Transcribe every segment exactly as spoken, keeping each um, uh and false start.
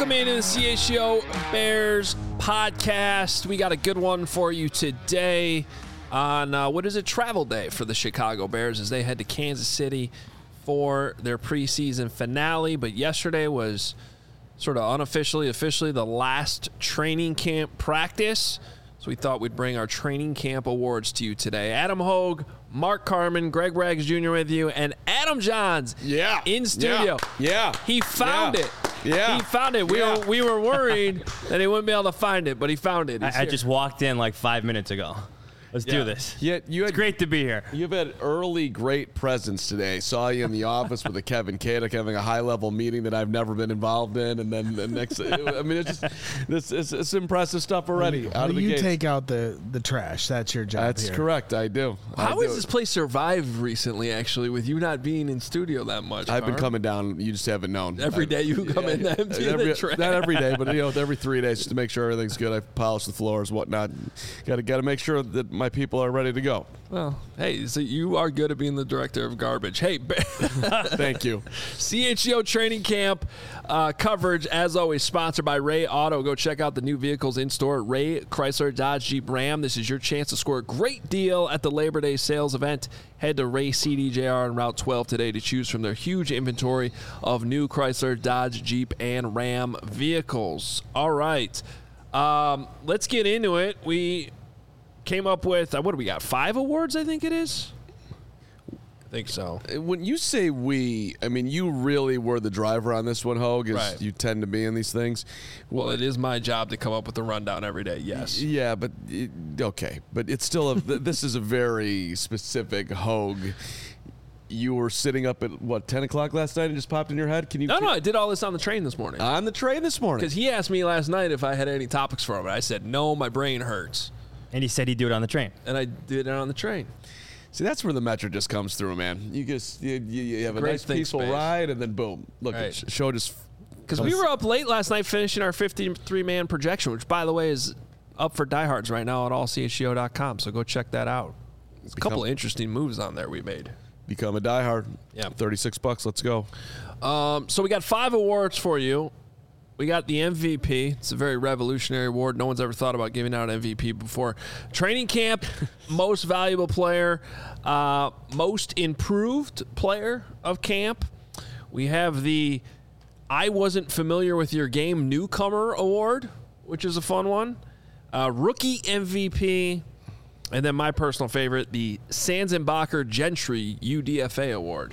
Welcome into the C H G O Bears podcast. We got a good one for you today on uh, what is it, travel day for the Chicago Bears as they head to Kansas City for their preseason finale. But yesterday was sort of unofficially, officially the last training camp practice. So we thought we'd bring our training camp awards to you today. Adam Hogue, Mark Carman, Greg Rags Junior with you, and Adam Johns yeah. in studio. Yeah. yeah. He found yeah. it. Yeah. He found it. We yeah. were we were worried that he wouldn't be able to find it, but he found it. I, I just walked in like five minutes ago. Let's yeah. do this. Yeah, you had, it's great to be here. You've had early great presence today. Saw you in the office with a Kevin Kadek having a high-level meeting that I've never been involved in, and then the next. I mean, it's just this it's, it's impressive stuff already. Well, out of the you gates. take out the the trash. That's your job. That's here. correct. I do. How I has do. this place survived recently, actually, with you not being in studio that much? I've been Mark? coming down. You just haven't known. Every day you come yeah, in to empty every, the trash. Not every day, but you know, every three days just to make sure everything's good. I polish the floors, whatnot. Got to got to make sure that my people are ready to go. Well, hey, so you are good at being the director of garbage. Hey, thank you. C H G O training camp uh, coverage, as always, sponsored by Ray Auto. Go check out the new vehicles in store at Ray Chrysler Dodge Jeep Ram. This is your chance to score a great deal at the Labor Day sales event. Head to Ray C D J R on Route twelve today to choose from their huge inventory of new Chrysler, Dodge, Jeep, and Ram vehicles. All right, um, let's get into it. We came up with, uh, what do we got, five awards, I think it is? I think so. When you say we, I mean, you really were the driver on this one, Hogue, as right. you tend to be in these things. Well, well, it is my job to come up with the rundown every day, yes. Yeah, but, it, okay. But it's still, a, this is a very specific Hogue. You were sitting up at, what, ten o'clock last night and just popped in your head? Can you? No, no, I did all this on the train this morning. On the train this morning? Because he asked me last night if I had any topics for him, and I said, no, my brain hurts. And he said he'd do it on the train. And I did it on the train. See, that's where the Metro just comes through, man. You just you, you, you have a Great nice, peaceful space. ride, and then boom. Look, right. the show just... Because we were up late last night finishing our fifty-three man projection, which, by the way, is up for diehards right now at all c h g o dot com, so go check that out. There's a couple of interesting moves on there we made. Become a diehard. Yeah. thirty-six bucks. Let's go. Um, so we got five awards for you. We got the M V P. It's a very revolutionary award. No one's ever thought about giving out M V P before. Training camp, most valuable player, uh, most improved player of camp. We have the I wasn't familiar with your game newcomer award, which is a fun one. Uh, rookie M V P. And then my personal favorite, the Sanzenbacher Gentry U D F A award.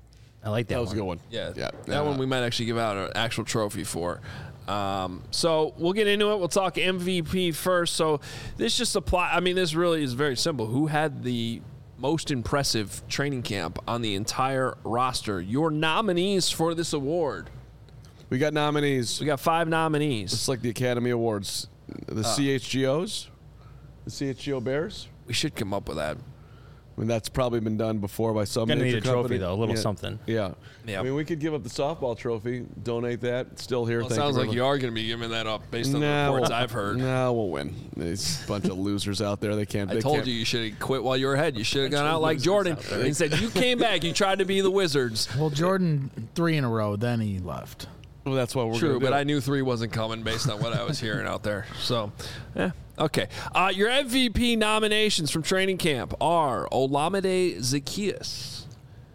I like that. That was one. a good one. Yeah, yeah. that uh, one we might actually give out an actual trophy for. Um, so we'll get into it. We'll talk M V P first. So this just apply. I mean, this really is very simple. Who had the most impressive training camp on the entire roster? Your nominees for this award. We got nominees. We got five nominees. It's like the Academy Awards. The uh, C H G Os, the C H G O Bears. We should come up with that. I mean, that's probably been done before by some Gonna major need a company. trophy, though. A little yeah. something. Yeah. yeah. I mean, we could give up the softball trophy, donate that. Still here. Well, it Thank sounds you like much. you are going to be giving that up based on nah, the reports we'll, I've heard. No, we'll win. There's a bunch of losers out there. They can't. I they told can't. you you should have quit while you were ahead. You should have gone out like Jordan out and said, you came back. You tried to be the Wizards. Well, Jordan three in a row, then he left. Well, that's what we're True, gonna but do. I knew three wasn't coming based on what I was hearing out there. So, yeah. Okay. Uh, your M V P nominations from training camp are Olamide Zaccheaus,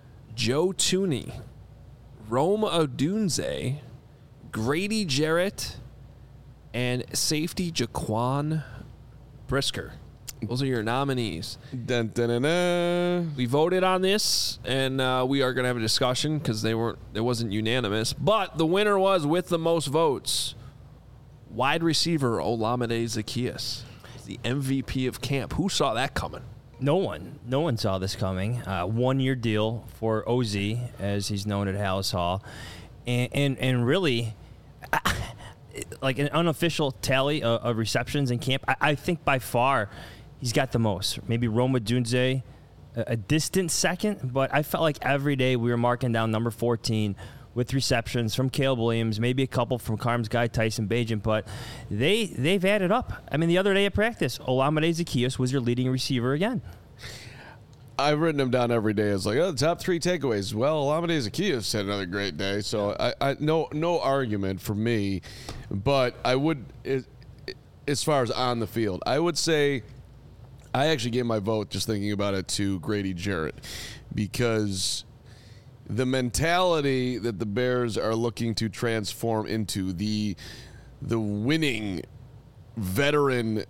Joe Thuney, Rome Odunze, Grady Jarrett, and safety Jaquan Brisker. Those are your nominees. Dun, dun, dun, dun. We voted on this, and uh, we are going to have a discussion because they weren't. It wasn't unanimous. But the winner was, with the most votes, wide receiver Olamide Zaccheaus, the M V P of camp. Who saw that coming? No one. No one saw this coming. Uh, one-year deal for O Z, as he's known at Hallis Hall. And, and, and really, like an unofficial tally of, of receptions in camp, I, I think by far he's got the most. Maybe Roma Dunze, a, a distant second, but I felt like every day we were marking down number fourteen with receptions from Caleb Williams, maybe a couple from Carm's guy Tyson Bagent, but they, they've added up. I mean, the other day at practice, Olamide Zaccheaus was your leading receiver again. I've written them down every day as like, oh, the top three takeaways. Well, Olamide Zaccheaus had another great day, so I, I no no argument for me, but I would, as far as on the field, I would say I actually gave my vote just thinking about it to Grady Jarrett because the mentality that the Bears are looking to transform into the the winning veteran,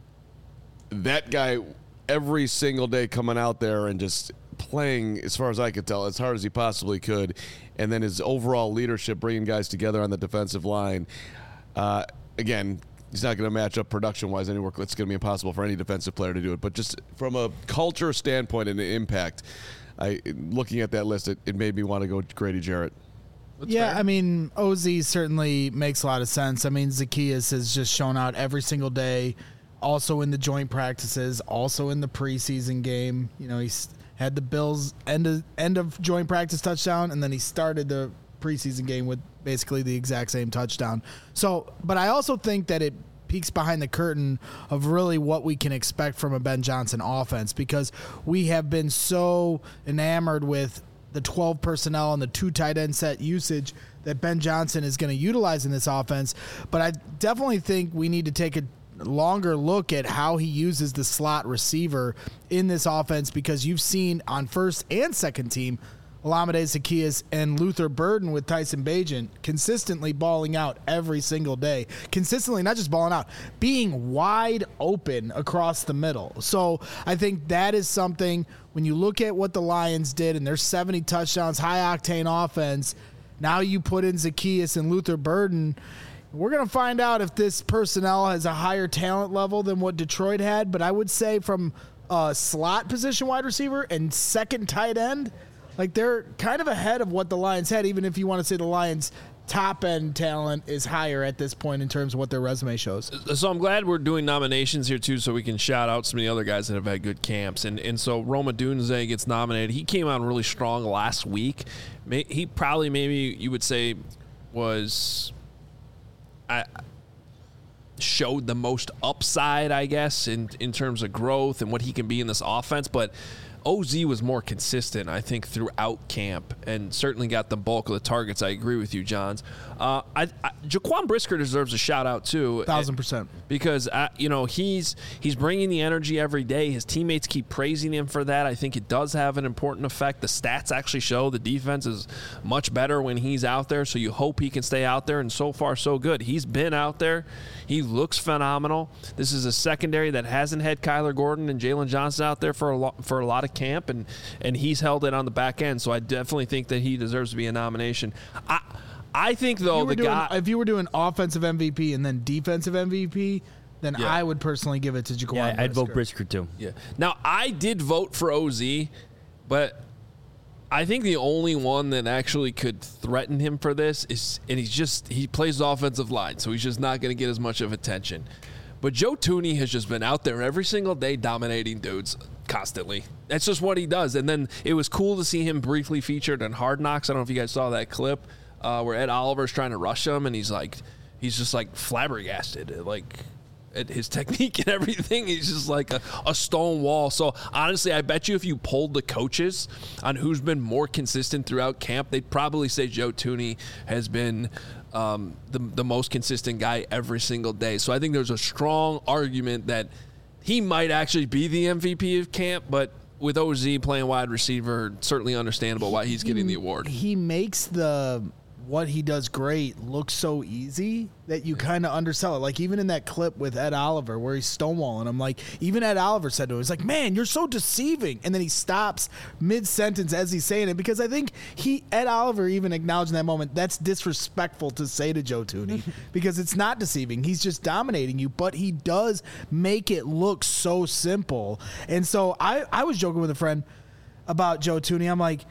that guy every single day coming out there and just playing, as far as I could tell, as hard as he possibly could, and then his overall leadership, bringing guys together on the defensive line. Uh, again, he's not going to match up production-wise anywhere. It's going to be impossible for any defensive player to do it. But just from a culture standpoint and the impact, I looking at that list, it, it made me want to go Grady Jarrett. That's yeah, fair. I mean, O Z certainly makes a lot of sense. I mean, Zaccheaus has just shown out every single day, also in the joint practices, also in the preseason game. You know, he's had the Bills' end of, end of joint practice touchdown, and then he started the preseason game with basically the exact same touchdown. So, but I also think that it peeks behind the curtain of really what we can expect from a Ben Johnson offense, because we have been so enamored with the twelve personnel and the two tight end set usage that Ben Johnson is going to utilize in this offense. But I definitely think we need to take a longer look at how he uses the slot receiver in this offense, because you've seen on first and second team Olamide Zaccheaus and Luther Burden with Tyson Bagent consistently balling out every single day. Consistently, not just balling out, being wide open across the middle. So I think that is something, when you look at what the Lions did and their seventy touchdowns, high-octane offense, now you put in Zaccheaus and Luther Burden. We're going to find out if this personnel has a higher talent level than what Detroit had, but I would say from a slot position wide receiver and second tight end, like they're kind of ahead of what the Lions had, even if you want to say the Lions' top-end talent is higher at this point in terms of what their resume shows. So I'm glad we're doing nominations here, too, so we can shout out some of the other guys that have had good camps. And and so Roma Dunze gets nominated. He came out really strong last week. He probably, maybe you would say, was I, showed the most upside, I guess, in, in terms of growth and what he can be in this offense. But O Z was more consistent, I think, throughout camp, and certainly got the bulk of the targets. I agree with you, Johns. Uh, I, I, Jaquan Brisker deserves a shout out too, thousand percent, because uh, you know he's he's bringing the energy every day. His teammates keep praising him for that. I think it does have an important effect. The stats actually show the defense is much better when he's out there. So you hope he can stay out there, and so far so good. He's been out there. He looks phenomenal. This is a secondary that hasn't had Kyler Gordon and Jalen Johnson out there for a lot for a lot of camp, and and he's held it on the back end. So I definitely think that he deserves to be a nomination. I I think though the doing, guy, if you were doing offensive M V P and then defensive M V P, then yeah. I would personally give it to Jaquan. Yeah, Brisker. I'd vote Brisker too. Yeah. Now I did vote for O Z, but I think the only one that actually could threaten him for this is, and he's just he plays offensive line, so he's just not going to get as much of attention. But Joe Thuney has just been out there every single day dominating dudes constantly. That's just what he does. And then it was cool to see him briefly featured in Hard Knocks. I don't know if you guys saw that clip uh, where Ed Oliver's trying to rush him, and he's like, he's just like flabbergasted, like at his technique and everything. He's just like a, a stone wall. So honestly, I bet you if you polled the coaches on who's been more consistent throughout camp, they'd probably say Joe Thuney has been Um, the the most consistent guy every single day. So I think there's a strong argument that he might actually be the M V P of camp, but with O Z playing wide receiver, certainly understandable why he's getting the award. He makes the what he does great look so easy that you kind of undersell it. Like even in that clip with Ed Oliver where he's stonewalling him, like even Ed Oliver said to him, he's like, man, you're so deceiving. And then he stops mid-sentence as he's saying it, because I think he, Ed Oliver even acknowledged in that moment, that's disrespectful to say to Joe Thuney because it's not deceiving. He's just dominating you, but he does make it look so simple. And so I, I was joking with a friend about Joe Thuney. I'm like,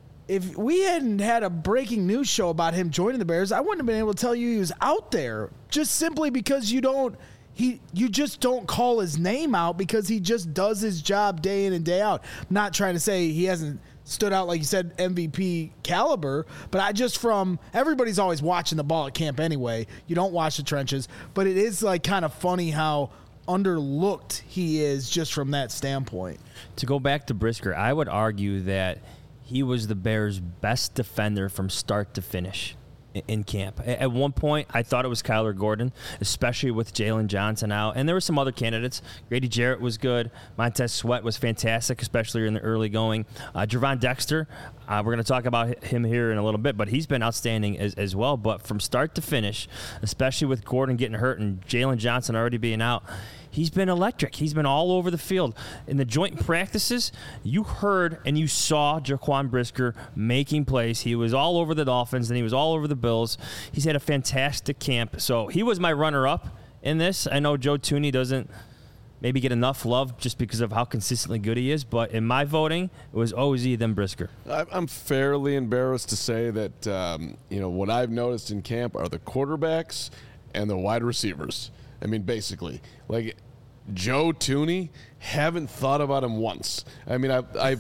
if we hadn't had a breaking news show about him joining the Bears, I wouldn't have been able to tell you he was out there, just simply because you don't he you just don't call his name out, because he just does his job day in and day out. I'm not trying to say he hasn't stood out, like you said, M V P caliber, but I just from everybody's always watching the ball at camp anyway. You don't watch the trenches, but it is like kind of funny how underlooked he is just from that standpoint. To go back to Brisker, I would argue that he was the Bears' best defender from start to finish in camp. At one point, I thought it was Kyler Gordon, especially with Jalen Johnson out. And there were some other candidates. Grady Jarrett was good. Montez Sweat was fantastic, especially in the early going. Uh, Gervon Dexter, uh, we're going to talk about him here in a little bit, but he's been outstanding as, as well. But from start to finish, especially with Gordon getting hurt and Jalen Johnson already being out, he's been electric. He's been all over the field. In the joint practices, you heard and you saw Jaquan Brisker making plays. He was all over the Dolphins, and he was all over the Bills. He's had a fantastic camp. So he was my runner-up in this. I know Joe Thuney doesn't maybe get enough love just because of how consistently good he is, but in my voting, it was O Z then Brisker. I'm fairly embarrassed to say that, um, you know, what I've noticed in camp are the quarterbacks and the wide receivers. I mean, basically, like Joe Thuney, haven't thought about him once. I mean, I I,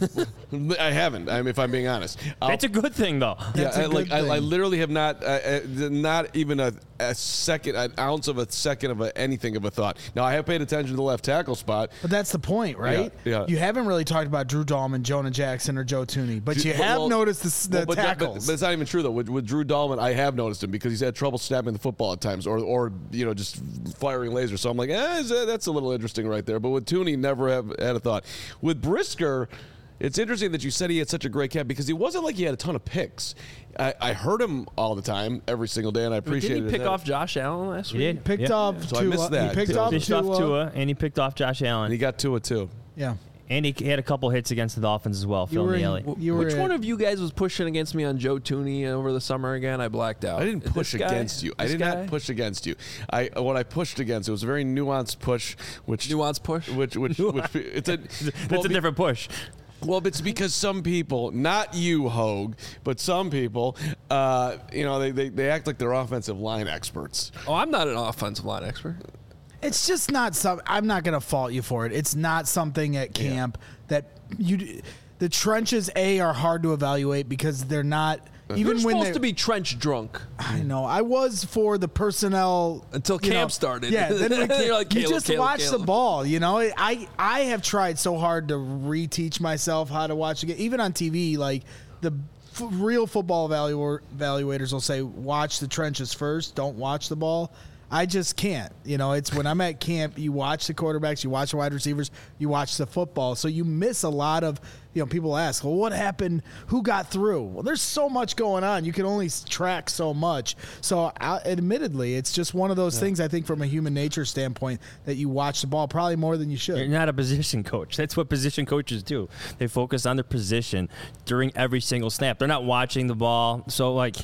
I haven't. I mean, if I'm being honest, I'll, That's a good thing, though. yeah, That's a I, like good I, I thing. literally have not, uh, uh, not even a, a second, an ounce of a second of a, anything of a thought. Now, I have paid attention to the left tackle spot. But that's the point, right? Yeah, yeah. You haven't really talked about Drew Dahlman, Jonah Jackson, or Joe Thuney, but you Well, have well, noticed the, s- the well, but that- tackles. but, but it's not even true though. With, with Drew Dahlman, I have noticed him because he's had trouble snapping the football at times, or or you know just firing lasers. So I'm like, eh, is that- that's a little interesting right there. But with Thuney, never have had a thought. With Brisker, it's interesting that you said he had such a great camp because he wasn't like he had a ton of picks. I, I heard him all the time, every single day, and I appreciate Didn't it. he pick off Josh Allen last He week? did. picked Yeah. off So I Tua. missed that. He picked He off Fished Tua. off Tua, and he picked off Josh Allen. And he got Tua too. Yeah. And he had a couple hits against the Dolphins as well, You Phil were in- Neely. you were Which at- one of you guys was pushing against me on Joe Thuney over the summer again? I blacked out. I didn't This push guy? against you. I This did guy? not push against you. I what I pushed against it was a very nuanced push, which Nuance push? which which, which it's a That's well, a be- different push. Well, it's because some people, not you, Hogue, but some people, uh, you know, they, they, they act like they're offensive line experts. Oh, I'm not an offensive line expert. It's just not some. I'm not going to fault you for it. It's not something at camp that you. The trenches A are hard to evaluate because they're not. Even You're when supposed they, to be trench drunk I know. I was for the personnel until you camp know, started. Yeah, then we, You're like, you Caleb, just Caleb, watch Caleb. the ball. You know, I I have tried so hard to reteach myself how to watch the game, even on T V. Like the f- real football evalu- evaluators will say, watch the trenches first. Don't watch the ball. I just can't. You know, it's when I'm at camp, you watch the quarterbacks, you watch the wide receivers, you watch the football. So you miss a lot of, you know, people ask, well, what happened? Who got through? Well, there's so much going on. You can only s- track so much. So uh, admittedly, it's just one of those things, I think, from a human nature standpoint, that you watch the ball probably more than you You're should. not a position coach. That's what position coaches do. They focus on their position during every single snap. They're not watching the ball. So, like,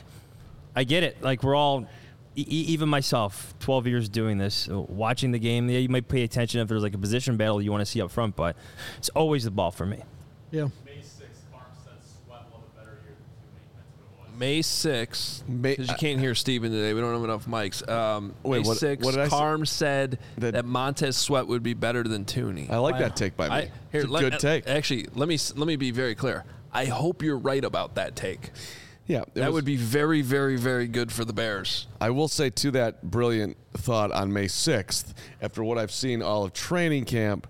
I get it. Like, we're all, e- e- even myself, twelve years doing this, uh, watching the game. Yeah, you might pay attention if there's like a position battle you want to see up front, but it's always the ball for me. Yeah. May sixth, Carm said Sweat will have a better year than Thuney. That's what it was. May sixth, May- because you can't hear Steven today. We don't have enough mics. Um, Wait, May what- sixth, what did I say? Carm said That- that, Montez Sweat would be better than Thuney. I like that take by me. I, here, it's a let- good take. Actually, let me s- let me be very clear. I hope you're right about that take. Yeah, it That was- would be very, very, very good for the Bears. I will say to that brilliant thought on May sixth, after what I've seen all of training camp,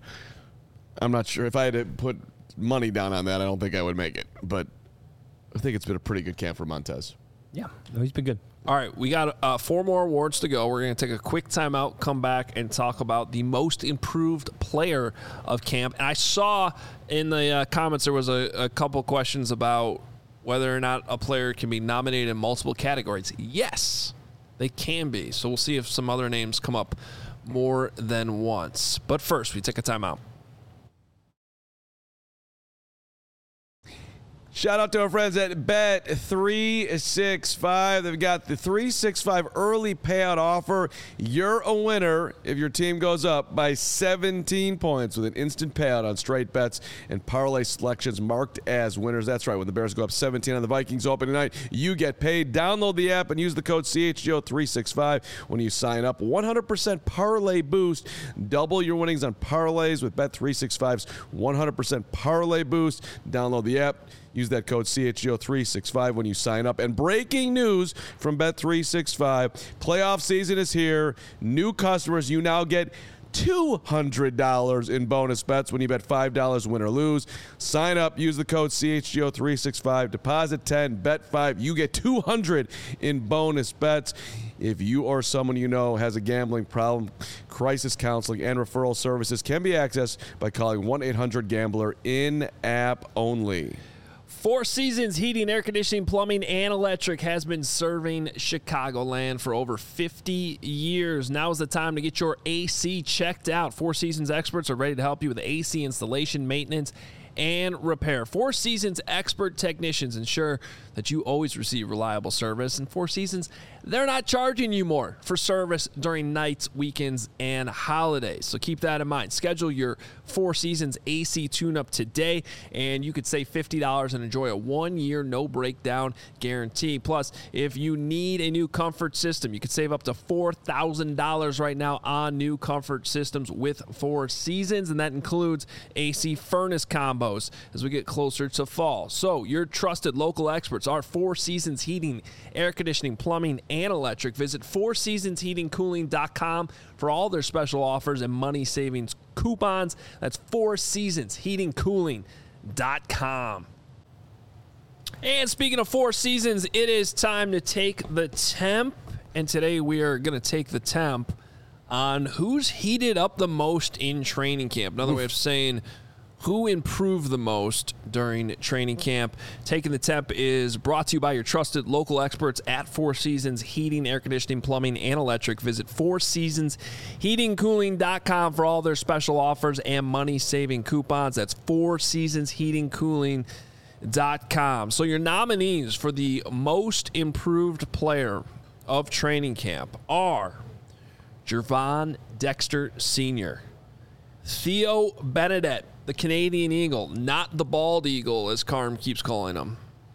I'm not sure if I had to put money down on that, I don't think I would make it. But I think it's been a pretty good camp for Montez. Yeah, no, he's been good. All right, we got uh, four more awards to go. We're going to take a quick timeout, come back, and talk about the most improved player of camp. And I saw in the uh, comments there was a, a couple questions about whether or not a player can be nominated in multiple categories. Yes, they can be. So we'll see if some other names come up more than once. But first, we take a timeout. Shout out to our friends at Bet three sixty-five. They've got the three sixty-five early payout offer. You're a winner if your team goes up by seventeen points with an instant payout on straight bets and parlay selections marked as winners. That's right. When the Bears go up seventeen on the Vikings open tonight, you get paid. Download the app and use the code C H G O three sixty-five when you sign up. one hundred percent parlay boost. Double your winnings on parlays with Bet three sixty-five's one hundred percent parlay boost. Download the app. Use that code C H G O three sixty-five when you sign up. And breaking news from Bet three sixty-five, playoff season is here. New customers, you now get two hundred dollars in bonus bets when you bet five dollars win or lose. Sign up, use the code C H G O three six five, deposit ten, bet five. You get two hundred in bonus bets. If you or someone you know has a gambling problem, crisis counseling and referral services can be accessed by calling one eight hundred gambler in-app only. Four Seasons Heating, Air Conditioning, Plumbing, and Electric has been serving Chicagoland for over fifty years. Now is the time to get your A C checked out. Four Seasons experts are ready to help you with A C installation, maintenance, and repair. Four Seasons expert technicians ensure that you always receive reliable service. And Four Seasons, they're not charging you more for service during nights, weekends, and holidays. So keep that in mind. Schedule your Four Seasons A C tune-up today, and you could save fifty dollars and enjoy a one-year no-breakdown guarantee. Plus, if you need a new comfort system, you could save up to four thousand dollars right now on new comfort systems with Four Seasons, and that includes A C furnace combos as we get closer to fall. So your trusted local experts are Four Seasons Heating, Air Conditioning, Plumbing, and Electric. Visit four seasons heating cooling dot com for all their special offers and money savings coupons. That's four seasons heating cooling dot com. And speaking of Four Seasons, it is time to take the temp. And today we are going to take the temp on who's heated up the most in training camp. Another way of saying who improved the most during training camp. Taking the temp is brought to you by your trusted local experts at Four Seasons Heating, Air Conditioning, Plumbing, and Electric. Visit four seasons heating cooling dot com for all their special offers and money-saving coupons. That's four seasons heating cooling dot com. So your nominees for the most improved player of training camp are Gervon Dexter Senior, Theo Benedette, the Canadian Eagle, not the bald eagle, as Carm keeps calling him.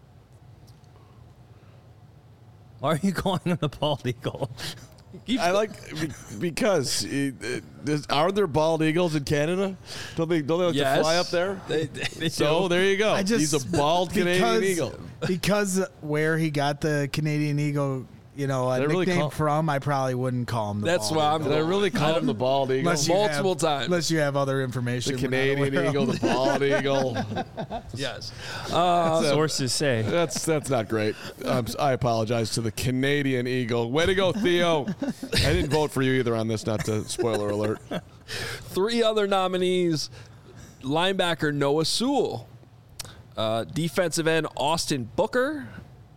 Why are you calling him the bald eagle? I like because it, it, are there bald eagles in Canada? Don't they, don't they like Yes. to fly up there? They, they So do. there you go. I just, He's a bald Canadian because, eagle. Because where he got the Canadian Eagle, you know, a Did I really nickname call- from, I probably wouldn't call him the That's bald why I'm- eagle. Did I really call him the bald eagle? Unless you multiple have- times. Unless you have other information. The we're not Canadian aware of. eagle, the bald eagle. Yes. Sources say. That's that's not great. Um, I apologize to the Canadian eagle. Way to go, Theo. I didn't vote for you either on this. Not to spoiler alert. Three other nominees: linebacker Noah Sewell, uh, defensive end Austin Booker,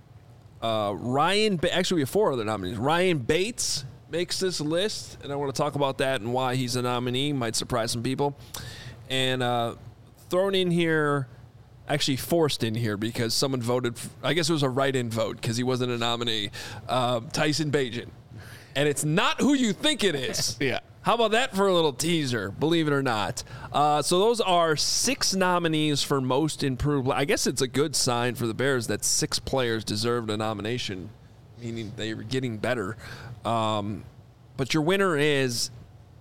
uh, Ryan. Ba- Actually, we have four other nominees. Ryan Bates makes this list, and I want to talk about that and why he's a nominee. Might surprise some people. And uh, thrown in here, actually forced in here because someone voted. f- I guess it was a write-in vote because he wasn't a nominee. Uh, Tyson Bagent, and it's not who you think it is. Yeah. How about that for a little teaser, believe it or not? Uh, so those are six nominees for most improved. I guess it's a good sign for the Bears that six players deserved a nomination, meaning they were getting better. Um, but your winner is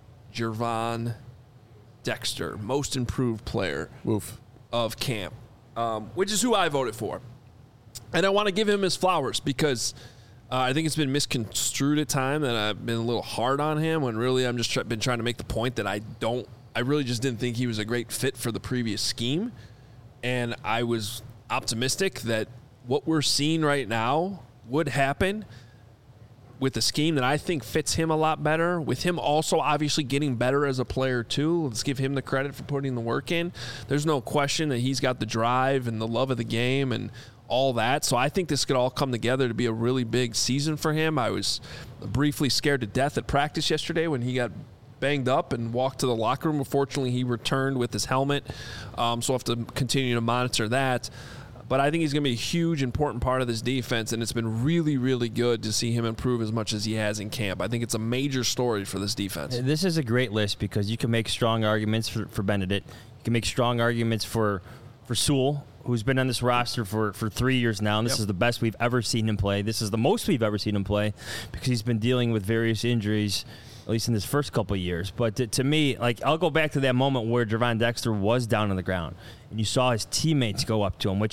Gervon Dexter, most improved player Woof. of camp, um, which is who I voted for. And I want to give him his flowers because uh, I think it's been misconstrued at time that I've been a little hard on him when really I'm just try- been trying to make the point that I don't, I really just didn't think he was a great fit for the previous scheme. And I was optimistic that what we're seeing right now would happen with a scheme that I think fits him a lot better, with him also obviously getting better as a player too. Let's give him the credit for putting the work in. There's no question that he's got the drive and the love of the game and all that. So I think this could all come together to be a really big season for him. I was briefly scared to death at practice yesterday when he got banged up and walked to the locker room. Unfortunately, he returned with his helmet, um, so I'll have to continue to monitor that. But I think he's going to be a huge, important part of this defense, and it's been really, really good to see him improve as much as he has in camp. I think it's a major story for this defense. This is a great list because you can make strong arguments for, for Benedict. You can make strong arguments for for Sewell, who's been on this roster for, for three years now, and this Yep. is the best we've ever seen him play. This is the most we've ever seen him play because he's been dealing with various injuries, at least in his first couple of years. But to, to me, like I'll go back to that moment where Gervon Dexter was down on the ground, and you saw his teammates go up to him, which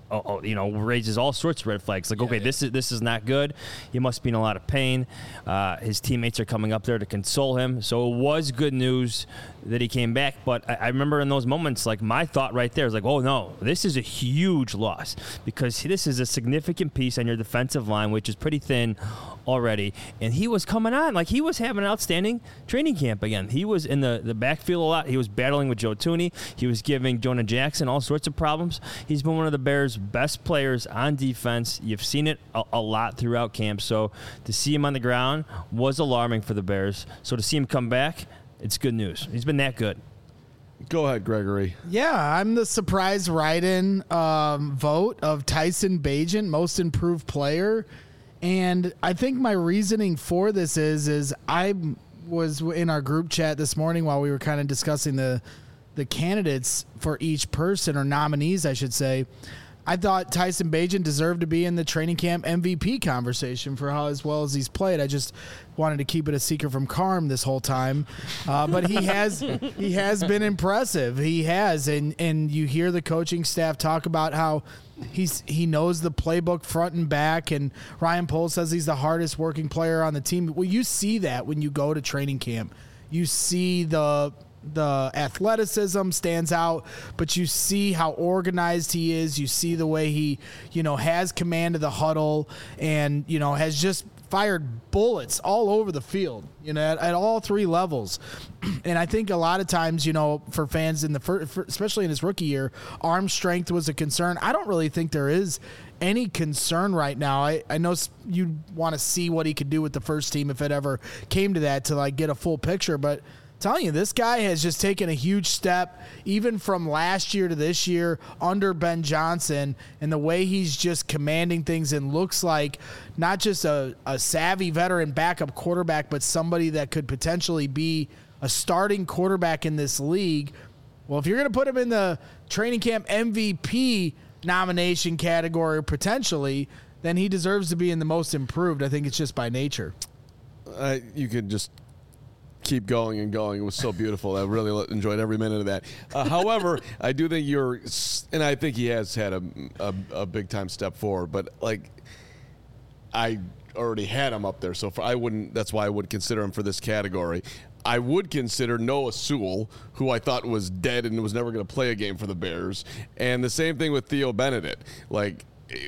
oh, oh, you know, raises all sorts of red flags. Like, okay, yeah. this is this is not good. He must be in a lot of pain. Uh, his teammates are coming up there to console him. So it was good news that he came back. But I, I remember in those moments, like, my thought right there is like, oh, no, this is a huge loss because this is a significant piece on your defensive line, which is pretty thin already. And he was coming on. Like, he was having an outstanding training camp again. He was in the, the backfield a lot. He was battling with Joe Thuney. He was giving Jonah Jackson all sorts of problems. He's been one of the Bears' best players on defense. You've seen it a, a lot throughout camp. So to see him on the ground was alarming for the Bears. So to see him come back, it's good news. He's been that good. Go ahead, Gregory. Yeah, I'm the surprise write-in um, vote of Tyson Bagent, most improved player. And I think my reasoning for this is, is I was in our group chat this morning while we were kind of discussing the the candidates for each person, or nominees, I should say. I thought Tyson Bagent deserved to be in the training camp M V P conversation for how as well as he's played. I just wanted to keep it a secret from Carm this whole time, uh, but he has he has been impressive. He has, and and you hear the coaching staff talk about how he's he knows the playbook front and back, and Ryan Poles says he's the hardest working player on the team. Well, you see that when you go to training camp. You see the the athleticism stands out, but you see how organized he is. You see the way he, you know, has command of the huddle, and, you know, has just fired bullets all over the field, you know, at, at all three levels. And I think a lot of times, you know, for fans in the first, especially in his rookie year, arm strength was a concern. I don't really think there is any concern right now. I, I know you want to see what he could do with the first team if it ever came to that, to like get a full picture, but telling you, this guy has just taken a huge step, even from last year to this year under Ben Johnson, and the way he's just commanding things and looks like not just a, a savvy veteran backup quarterback, but somebody that could potentially be a starting quarterback in this league. Well, if you're going to put him in the training camp M V P nomination category potentially, then he deserves to be in the most improved. I think it's just by nature. Uh, you could just keep going and going. It was so beautiful. I really enjoyed every minute of that. Uh, however, I do think you're, and I think he has had a, a, a big time step forward, but like I already had him up there. So for, I wouldn't, that's why I would consider him for this category. I would consider Noah Sewell, who I thought was dead and was never going to play a game for the Bears. And the same thing with Theo Benedict. Like,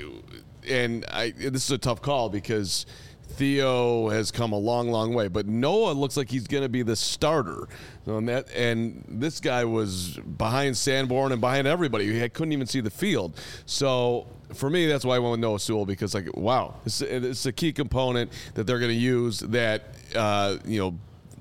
and I, this is a tough call because Theo has come a long, long way, but Noah looks like he's going to be the starter. On that, and this guy was behind Sanborn and behind everybody. He had, couldn't even see the field. So for me, that's why I went with Noah Sewell, because like, wow, it's, it's a key component that they're going to use. That uh, you know,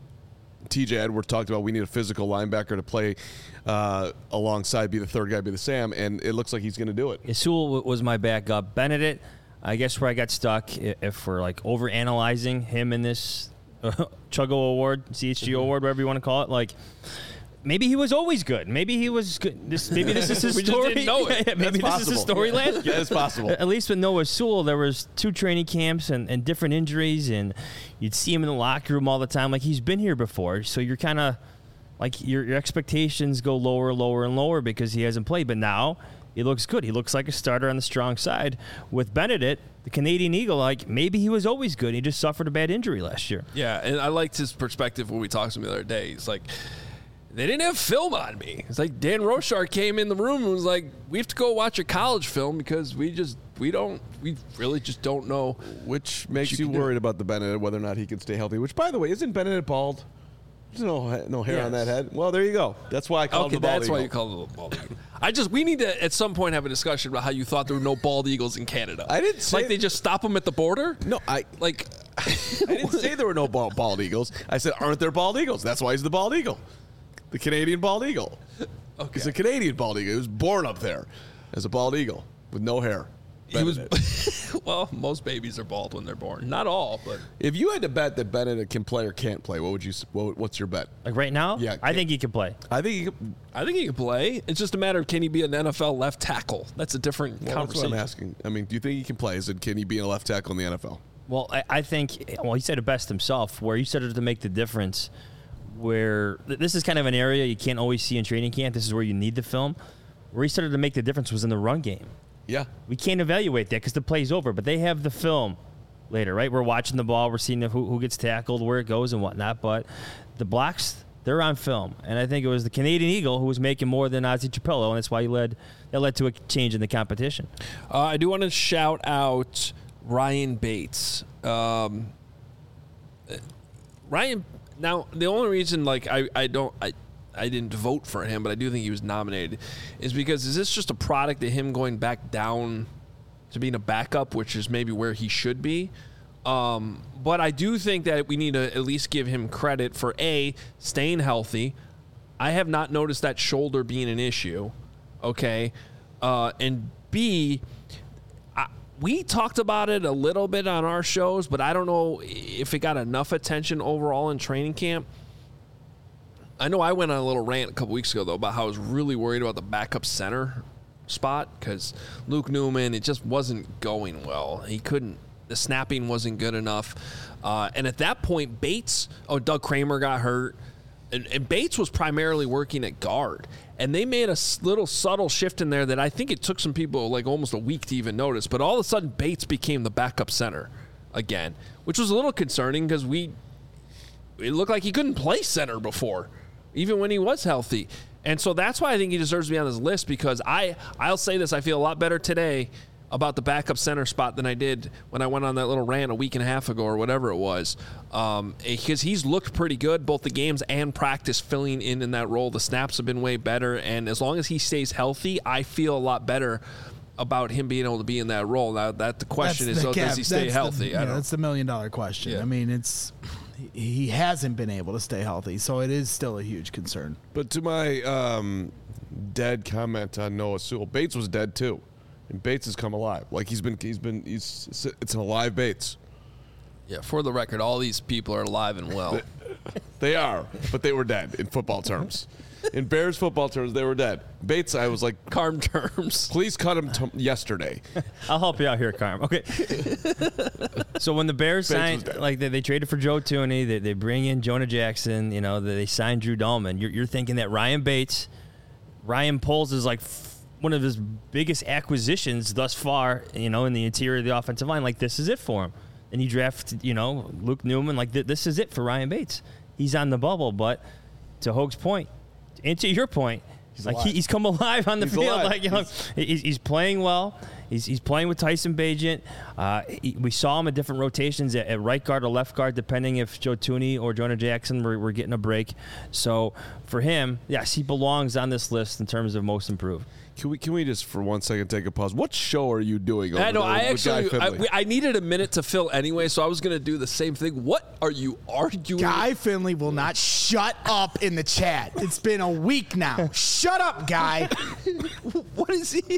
T J Edwards talked about. We need a physical linebacker to play uh, alongside, be the third guy, be the Sam, and it looks like he's going to do it. Yeah, Sewell was my backup. Benedict, I guess where I got stuck, if we're like over analyzing him in this uh, Chuggo Award, C H G mm-hmm. Award, whatever you want to call it, like maybe he was always good. Maybe he was good. This maybe this is his we story. Just didn't know it. Yeah, maybe That's this is his possible. story last year. Yeah, it's possible. At least with Noah Sewell, there was two training camps and, and different injuries, and you'd see him in the locker room all the time. Like he's been here before, so you're kind of like your your expectations go lower, lower, and lower because he hasn't played. But now he looks good. He looks like a starter on the strong side. With Benedict, the Canadian Eagle, like maybe he was always good. He just suffered a bad injury last year. Yeah, and I liked his perspective when we talked to him the other day. He's like, they didn't have film on me. It's like Dan Rochar came in the room and was like, we have to go watch a college film because we just, we don't, we really just don't know. Which makes you you, can worried do. about the Benedict, whether or not he can stay healthy. Which, by the way, isn't Benedict bald? There's no no hair Yes. on that head. Well, there you go. That's why I call Okay, him the bald that's eagle. why you call it a bald eagle. I just, we need to at some point have a discussion about how you thought there were no bald eagles in Canada. I didn't say like they just stop them at the border. No, I Like, I didn't say there were no bald, bald eagles. I said, aren't there bald eagles? That's why he's the bald eagle. The Canadian bald eagle. okay. He's a Canadian bald eagle. He was born up there as a bald eagle with no hair. He was, Benedict. well, most babies are bald when they're born. Not all, but If you had to bet that Benedict can play or can't play, what would you? What, what's your bet? Like right now, Yeah, I think he can play. I think he could, I think he can play. It's just a matter of can he be an N F L left tackle? That's a different well, that's what conversation. I'm asking. I mean, do you think he can play? Is it can he be a left tackle in the N F L? Well, I, I think, well, he said it best himself, where you started to make the difference, where th- this is kind of an area you can't always see in training camp. This is where you need the film. Where he started to make the difference was in the run game. Yeah. We can't evaluate that because the play's over, but they have the film later, right? We're watching the ball. We're seeing who, who gets tackled, where it goes, and whatnot. But the blocks, they're on film. And I think it was the Canadian Eagle who was making more than Ozzie Trapello, and that's why he led. That led to a change in the competition. Uh, I do want to shout out Ryan Bates. Um, Ryan, now, the only reason, like, I, I don't... I, I didn't vote for him, but I do think he was nominated, is because is this just a product of him going back down to being a backup, which is maybe where he should be? Um, but I do think that we need to at least give him credit for, A, staying healthy. I have not noticed that shoulder being an issue, okay? Uh, and B, I, we talked about it a little bit on our shows, but I don't know if it got enough attention overall in training camp. I know I went on a little rant a couple weeks ago, though, about how I was really worried about the backup center spot because Luke Newman, it just wasn't going well. He couldn't, the snapping wasn't good enough. Uh, and at that point, Bates, oh, Doug Kramer got hurt. And, and Bates was primarily working at guard. And they made a little subtle shift in there that I think it took some people like almost a week to even notice. But all of a sudden, Bates became the backup center again, which was a little concerning because we, it looked like he couldn't play center before, even when he was healthy. And so that's why I think he deserves to be on this list, because I, I'll say this, I feel a lot better today about the backup center spot than I did when I went on that little rant a week and a half ago or whatever it was. Um, because he's looked pretty good, both the games and practice, filling in in that role. The snaps have been way better, and as long as he stays healthy, I feel a lot better about him being able to be in that role. Now, that the question That's is, the oh, cap- does he stay that's healthy? The, I yeah, don't that's the million dollar question. Yeah. I mean, it's he hasn't been able to stay healthy, so it is still a huge concern. But to my um, dead comment on Noah Sewell, Bates was dead too, and Bates has come alive. Like he's been, he's been, he's it's an alive Bates. Yeah, for the record, all these people are alive and well. They are, but they were dead in football terms. In Bears football terms, they were dead. Bates, I was like, Carm terms. please cut him t- yesterday. I'll help you out here, Carm. Okay. So when the Bears Bates was signed, dead. like they, they traded for Joe Tooney, they, they bring in Jonah Jackson, you know, they, they signed Drew Dahlman. You're, you're thinking that Ryan Bates, Ryan Poles is like f- one of his biggest acquisitions thus far, you know, in the interior of the offensive line. Like this is it for him. And you draft, you know, Luke Newman. Like th- this is it for Ryan Bates. He's on the bubble, but to Hoag's point, and to your point, He's like alive. he, he's come alive on the He's field. alive. Like you know, he's, he's playing well. He's, he's playing with Tyson Bagent. Uh, he, we saw him in different rotations at, at right guard or left guard, depending if Joe Tooney or Jonah Jackson were, were getting a break. So for him, yes, he belongs on this list in terms of most improved. Can we can we just for one second take a pause? What show are you doing? Over I know. there I with Guy actually, I, Finley? we- I needed a minute to fill anyway, so I was going to do the same thing. What are you arguing? Guy Finley will not shut up in the chat. It's been a week now. Shut up, Guy. What is he?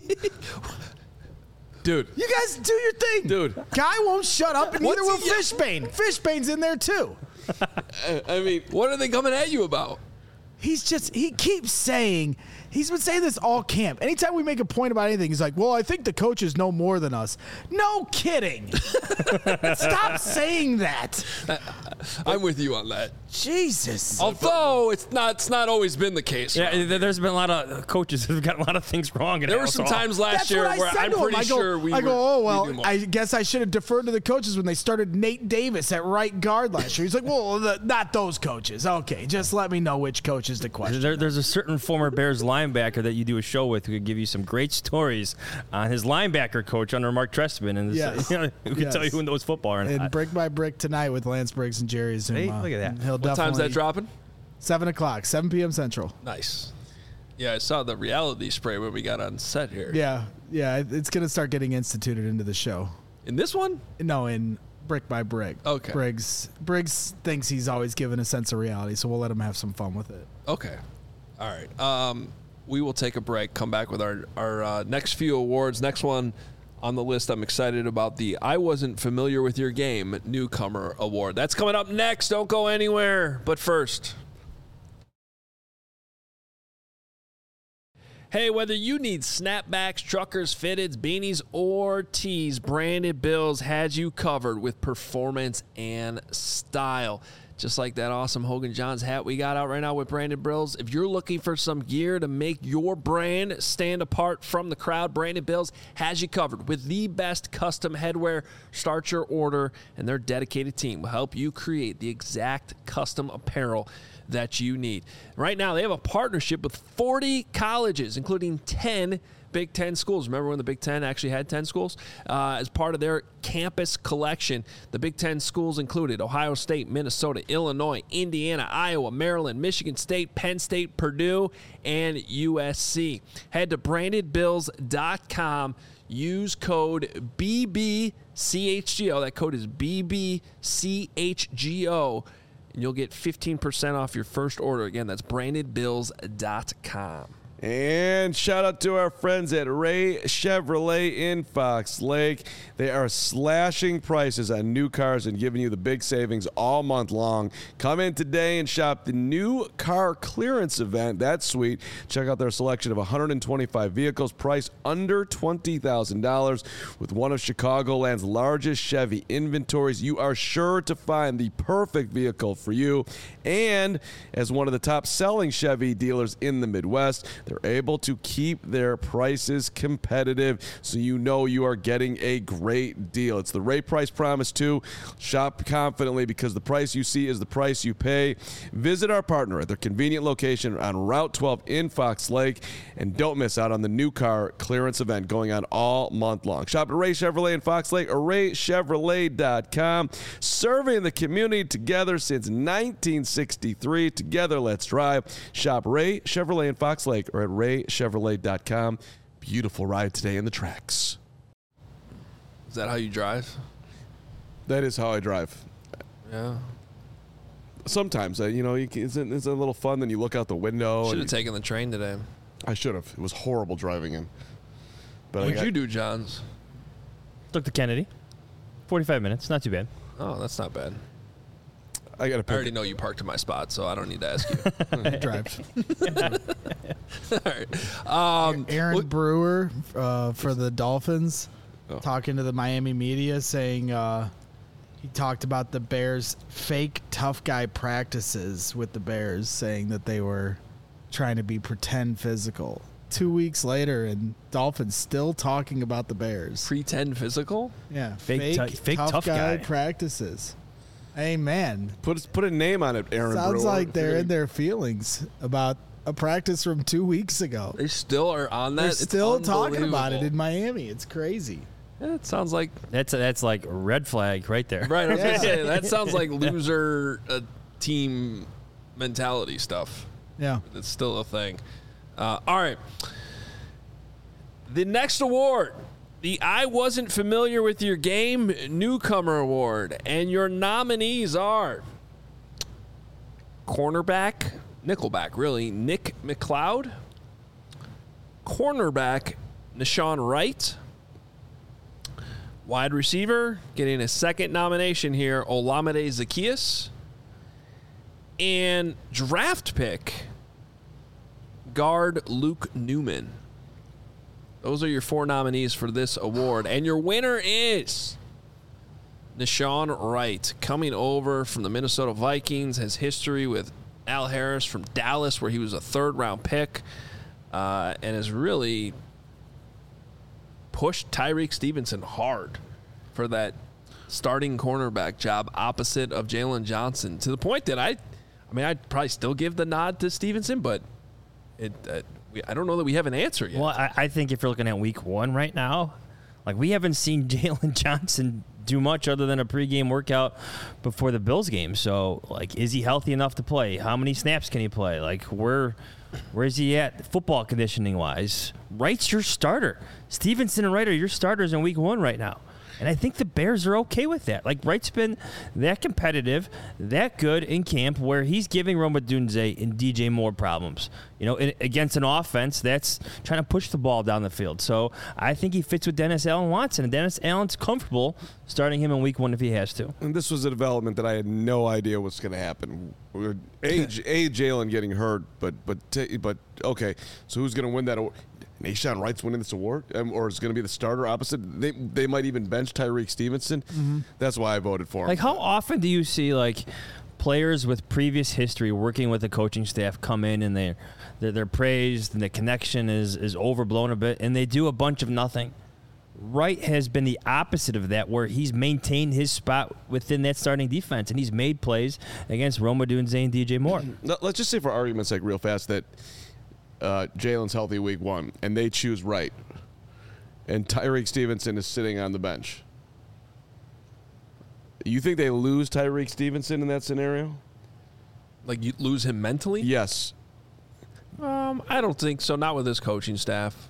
dude. You guys do your thing. Dude. Guy won't shut up, and What's neither will he- Fishbane. Fishbane's in there, too. I mean, What are they coming at you about? He's just, he keeps saying, he's been saying this all camp. Anytime we make a point about anything, he's like, well, I think the coaches know more than us. No kidding. Stop saying that. I'm with you on that. Jesus. Although it's not, it's not always been the case. Yeah, Rob. there- there's been a lot of coaches who've got a lot of things wrong. In There were House some Hall. times last That's year what I where said I'm to him. pretty I go, sure we I were, go, oh, we well, knew more. I guess I should have deferred to the coaches when they started Nate Davis at right guard last year. He's like, well, the, not those coaches. Okay, just let me know which coaches to question. There, there's a certain former Bears linebacker that you do a show with who could give you some great stories on his linebacker coach under Mark Trestman, and Yes. you know, who can Yes. tell you who knows football or And not. brick by brick tonight with Lance Briggs and Jerry Zuma. Hey, look at that. And He'll What time's definitely- that dropping? Seven o'clock, seven p.m. Central. Nice. Yeah, I saw the reality spray when we got on set here. Yeah, yeah, it- it's gonna start getting instituted into the show. In this one? No, in brick by brick. Okay. Briggs Briggs thinks he's always given a sense of reality, so we'll let him have some fun with it. Okay. All right. Um, we will take a break, come back with our, our uh, next few awards. Next one on the list, I'm excited about the I Wasn't Familiar with Your Game Newcomer Award. That's coming up next. Don't go anywhere. But first... Hey, whether you need snapbacks, truckers, fitteds, beanies, or tees, Branded Bills has you covered with performance and style. just like that awesome Hogan Johns hat we got out right now with Brandon Bills. If you're looking for some gear to make your brand stand apart from the crowd, Brandon Bills has you covered with the best custom headwear. Start your order, and their dedicated team will help you create the exact custom apparel that you need. Right now, they have a partnership with forty colleges, including ten Big Ten schools. Remember when the Big Ten actually had ten schools? Uh, as part of their campus collection, the Big Ten schools included Ohio State, Minnesota, Illinois, Indiana, Iowa, Maryland, Michigan State, Penn State, Purdue, and U S C. Head to branded bills dot com. Use code B B C H G O. That code is B B C H G O. And you'll get fifteen percent off your first order. Again, that's branded bills dot com. And shout out to our friends at Ray Chevrolet in Fox Lake. They are slashing prices on new cars and giving you the big savings all month long. Come in today and shop the new car clearance event. That's sweet. Check out their selection of one hundred twenty-five vehicles priced under twenty thousand dollars. With one of Chicagoland's largest Chevy inventories, you are sure to find the perfect vehicle for you. And as one of the top selling Chevy dealers in the Midwest, they're able to keep their prices competitive, so you know you are getting a great deal. It's the Ray Price Promise, too. Shop confidently because the price you see is the price you pay. Visit our partner at their convenient location on Route twelve in Fox Lake, and don't miss out on the new car clearance event going on all month long. Shop at Ray Chevrolet in Fox Lake or ray chevrolet dot com. Serving the community together since nineteen sixty-three. Together, let's drive. Shop Ray Chevrolet in Fox Lake or at ray chevrolet dot com. Beautiful ride today in the tracks. Is that how you drive? That is how I drive. Yeah. Sometimes, uh, you know, you can, it's, a, it's a little fun. Then you look out the window. Should and have taken the train today. I should have. It was horrible driving in. But I What'd got, you do, Johns? Took the Kennedy. forty-five minutes. Not too bad. Oh, that's not bad. I got to I pick. already know you parked in my spot, so I don't need to ask you. Drives. All right. Um, Aaron look- Brewer uh, for the Dolphins Oh. talking to the Miami media, saying uh, he talked about the Bears' fake tough guy practices with the Bears, saying that they were trying to be pretend physical. Two weeks later, and Dolphins still talking about the Bears. pretend physical? Yeah, Fake tou- fake tough guy, guy. practices. Hey man, Put put a name on it, Aaron. sounds Brewer. like they're in their feelings about a practice from two weeks ago. They still are on that? They're It's still talking about it unbelievable. in Miami. It's crazy. Yeah, it sounds like That's that's like a red flag right there. right. I was Yeah. gonna say that sounds like loser uh, team mentality stuff. Yeah. It's still a thing. Uh, all right. The next award, the I Wasn't Familiar with Your Game Newcomer Award, and your nominees are cornerback, nickelback, really, Nick McLeod, cornerback, Nashawn Wright, wide receiver, getting a second nomination here, Olamide Zaccheaus, and draft pick, guard Luke Newman. Those are your four nominees for this award. And your winner is Nashawn Wright, coming over from the Minnesota Vikings, has history with Al Harris from Dallas, where he was a third-round pick, uh, and has really pushed Tyreek Stevenson hard for that starting cornerback job opposite of Jalen Johnson, to the point that I, I mean, I'd probably still give the nod to Stevenson, but it, uh, we, I don't know that we have an answer yet. Well, I, I think if you're looking at week one right now, like we haven't seen Jalen Johnson do much other than a pregame workout before the Bills game. So, like, is he healthy enough to play? How many snaps can he play? Like, where, where is he at football conditioning wise? Wright's your starter. Stevenson and Wright are your starters in week one right now. And I think the Bears are okay with that. Like, Wright's been that competitive, that good in camp, where he's giving Rome Odunze and D J Moore problems. You know, in, against an offense that's trying to push the ball down the field. So I think he fits what Dennis Allen wants, and Dennis Allen's comfortable starting him in week one if he has to. And this was a development that I had no idea was going to happen. A, a Jalen getting hurt, but but t- but okay. So who's going to win that award? Nashawn Wright's winning this award, um, or is going to be the starter opposite? They they might even bench Tyreek Stevenson. Mm-hmm. That's why I voted for him. Like, how often do you see, like, players with previous history working with the coaching staff come in and they're, they're, they're praised and the connection is, is overblown a bit, and they do a bunch of nothing. Wright has been the opposite of that, where he's maintained his spot within that starting defense, and he's made plays against Rome Odunze and D J Moore. Let's just say, for argument's sake, real fast, that uh, Jalen's healthy week one, and they choose Wright, and Tyreek Stevenson is sitting on the bench. You think they lose Tyreek Stevenson in that scenario? Like, you lose him mentally? Yes. Um, I don't think so. Not with this coaching staff.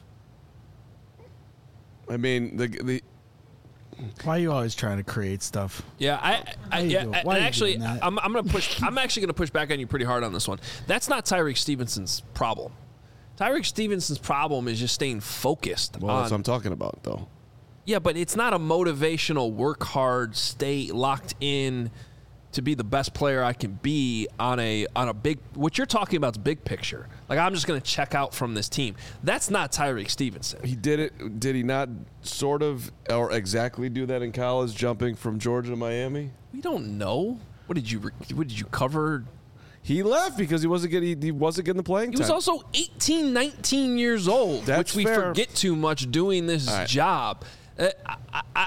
I mean, the the Why are you always trying to create stuff? Yeah, I, I you yeah, doing- and why are you actually, doing that? I'm, I'm gonna push. I'm actually gonna push back on you pretty hard on this one. That's not Tyreek Stevenson's problem. Tyreek Stevenson's problem is just staying focused. well, on, that's what I'm talking about, though. Yeah, but it's not a motivational work hard, stay locked in to be the best player I can be on a on a big. What you're talking about is big picture. Like, I'm just gonna check out from this team. That's not Tyreek Stevenson. He did it. Did he not sort of or exactly do that in college, jumping from Georgia to Miami? We don't know. What did you What did you cover? He left because he wasn't getting he wasn't getting the playing He time. was also eighteen, nineteen years old, That's which we fair. forget too much doing this All right. job. Uh, I, I,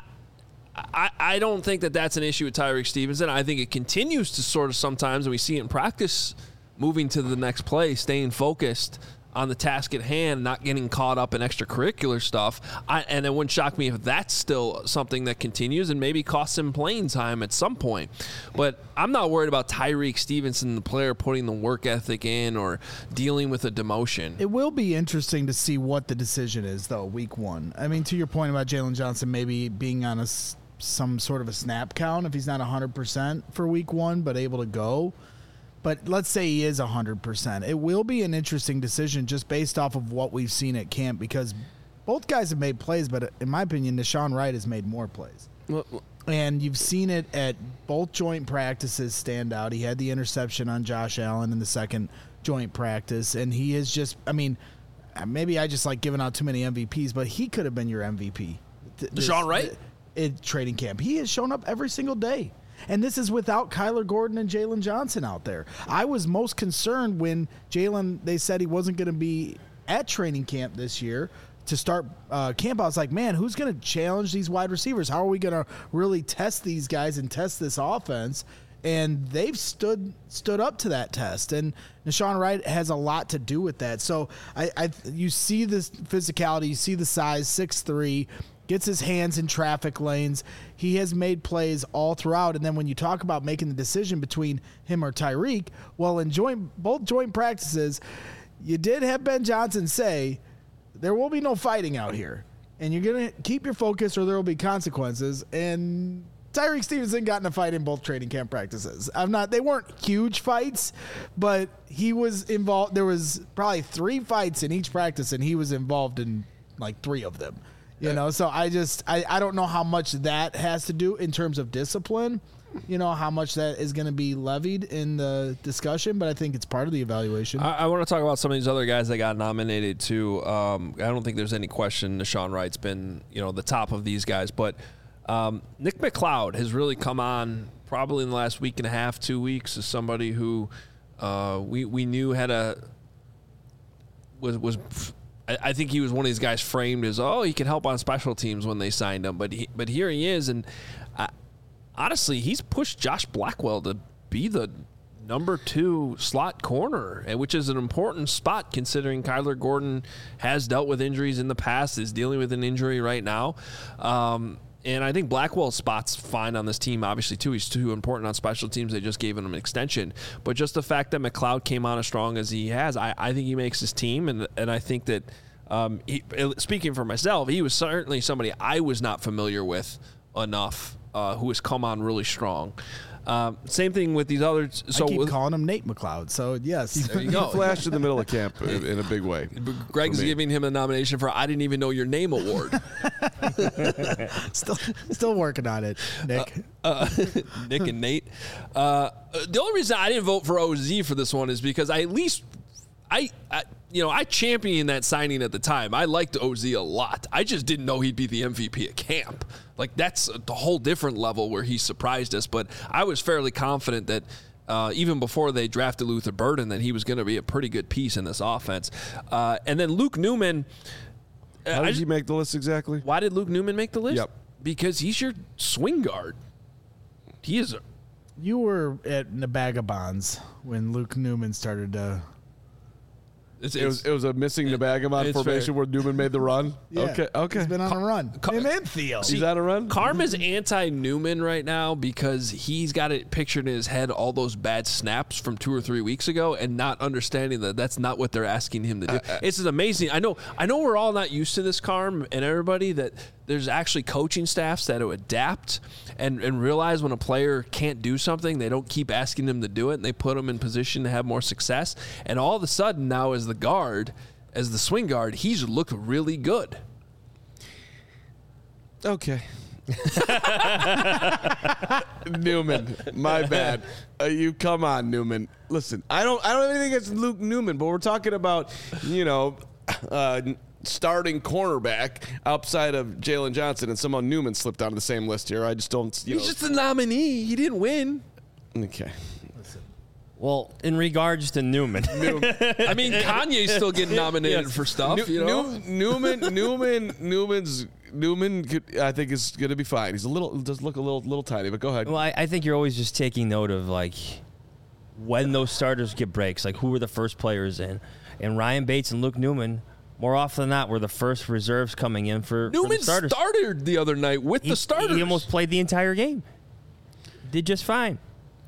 I, I don't think that that's an issue with Tyreek Stevenson. I think it continues to sort of sometimes, and we see it in practice, moving to the next play, staying focused on the task at hand, not getting caught up in extracurricular stuff. I, and it wouldn't shock me if that's still something that continues and maybe costs him playing time at some point. But I'm not worried about Tyreek Stevenson, the player, putting the work ethic in or dealing with a demotion. It will be interesting to see what the decision is, though, week one. I mean, to your point about Jalen Johnson maybe being on a, s- some sort of a snap count if he's not one hundred percent for week one, but able to go. But let's say he is one hundred percent. It will be an interesting decision just based off of what we've seen at camp, because both guys have made plays, but in my opinion, Deshaun Wright has made more plays. Well, And you've seen it at both joint practices stand out. He had the interception on Josh Allen in the second joint practice, and he is just, I mean, maybe I just like giving out too many M V Ps, but he could have been your M V P. Th- this- Deshaun Wright? In training camp. He has shown up every single day. And this is without Kyler Gordon and Jalen Johnson out there. I was most concerned when Jalen, they said he wasn't going to be at training camp this year to start uh, camp. I was like, man, who's going to challenge these wide receivers? How are we going to really test these guys and test this offense? And they've stood stood up to that test. And Deshaun Wright has a lot to do with that. So I, I you see this physicality, you see the size, six three, gets his hands in traffic lanes. He has made plays all throughout. And then when you talk about making the decision between him or Tyreek, well, in joint both joint practices, you did have Ben Johnson say, there will be no fighting out here. And you're going to keep your focus or there will be consequences. And Tyreek Stevenson got in a fight in both training camp practices. I'm not, they weren't huge fights, but he was involved. There was probably three fights in each practice, and he was involved in like three of them. You know, so I just, I, I don't know how much that has to do in terms of discipline, you know, how much that is going to be levied in the discussion, but I think it's part of the evaluation. I, I want to talk about some of these other guys that got nominated too. Um, I don't think there's any question Deshaun Wright's been, you know, the top of these guys, but um, Nick McLeod has really come on probably in the last week and a half, two weeks as somebody who uh, we we knew had a was was. I think he was one of these guys framed as, oh, he can help on special teams when they signed him. But he, but here he is. And uh, honestly, he's pushed Josh Blackwell to be the number two slot corner, which is an important spot considering Kyler Gordon has dealt with injuries in the past, is dealing with an injury right now. Um, and I think Blackwell's spot's fine on this team, obviously, too. He's too important on special teams. They just gave him an extension. But just the fact that McLeod came on as strong as he has, I, I think he makes his team. And, and I think that, um, he, speaking for myself, he was certainly somebody I was not familiar with enough, uh, who has come on really strong. Um, same thing with these others. So I keep with, calling him Nate McLeod. So, yes. there you he go. flashed in the middle of camp in in a big way. Greg's for me. giving him a nomination for I didn't even know your name award. still, still working on it, Nick. uh, Nick and Nate. Uh, the only reason I didn't vote for O Z for this one is because I at least I, I you know I championed that signing at the time. I liked O Z a lot. I just didn't know he'd be the M V P at camp. Like, that's a whole different level where he surprised us. But I was fairly confident that Uh, even before they drafted Luther Burden, that he was going to be a pretty good piece in this offense. Uh, and then Luke Newman. Uh, How I did just- you make the list exactly? why did Luke Newman make the list? Yep. Because he's your swing guard. He is. A, You were at the Bag of Bonds when Luke Newman started to. it's, It was it was a missing the Bagamon it's formation fair. where Newman made the run. Yeah, okay, okay. He's been on a run. Ca- Him and Theo. He's on a run. Karma's anti-Newman right now because he's got it pictured in his head all those bad snaps from two or three weeks ago and not understanding that that's not what they're asking him to do. It's just amazing. I know I know we're all not used to this, Karm, and everybody, that there's actually coaching staffs that will adapt and, and realize when a player can't do something, they don't keep asking them to do it, and they put them in position to have more success. And all of a sudden now as the guard, as the swing guard, he's looked really good. Okay. Newman, my bad. Uh, you come on, Newman. Listen, I don't, I don't have anything against Luke Newman, but we're talking about, you know, uh, starting cornerback outside of Jalen Johnson, and somehow Newman slipped onto the same list here. I just don't. You He's know. just a nominee. He didn't win. Okay. Well, in regards to Newman, I mean, Kanye's still getting nominated for stuff, New- you know? New- Newman, Newman, Newman's Newman. Could, I think is going to be fine. He's a little, does look a little, little tiny, but go ahead. well, I, I think you're always just taking note of like when those starters get breaks, like who were the first players in, and Ryan Bates and Luke Newman. More often than not, were the first reserves coming in for, for the Newman starters. started the other night with he, the starters. He almost played the entire game. Did just fine.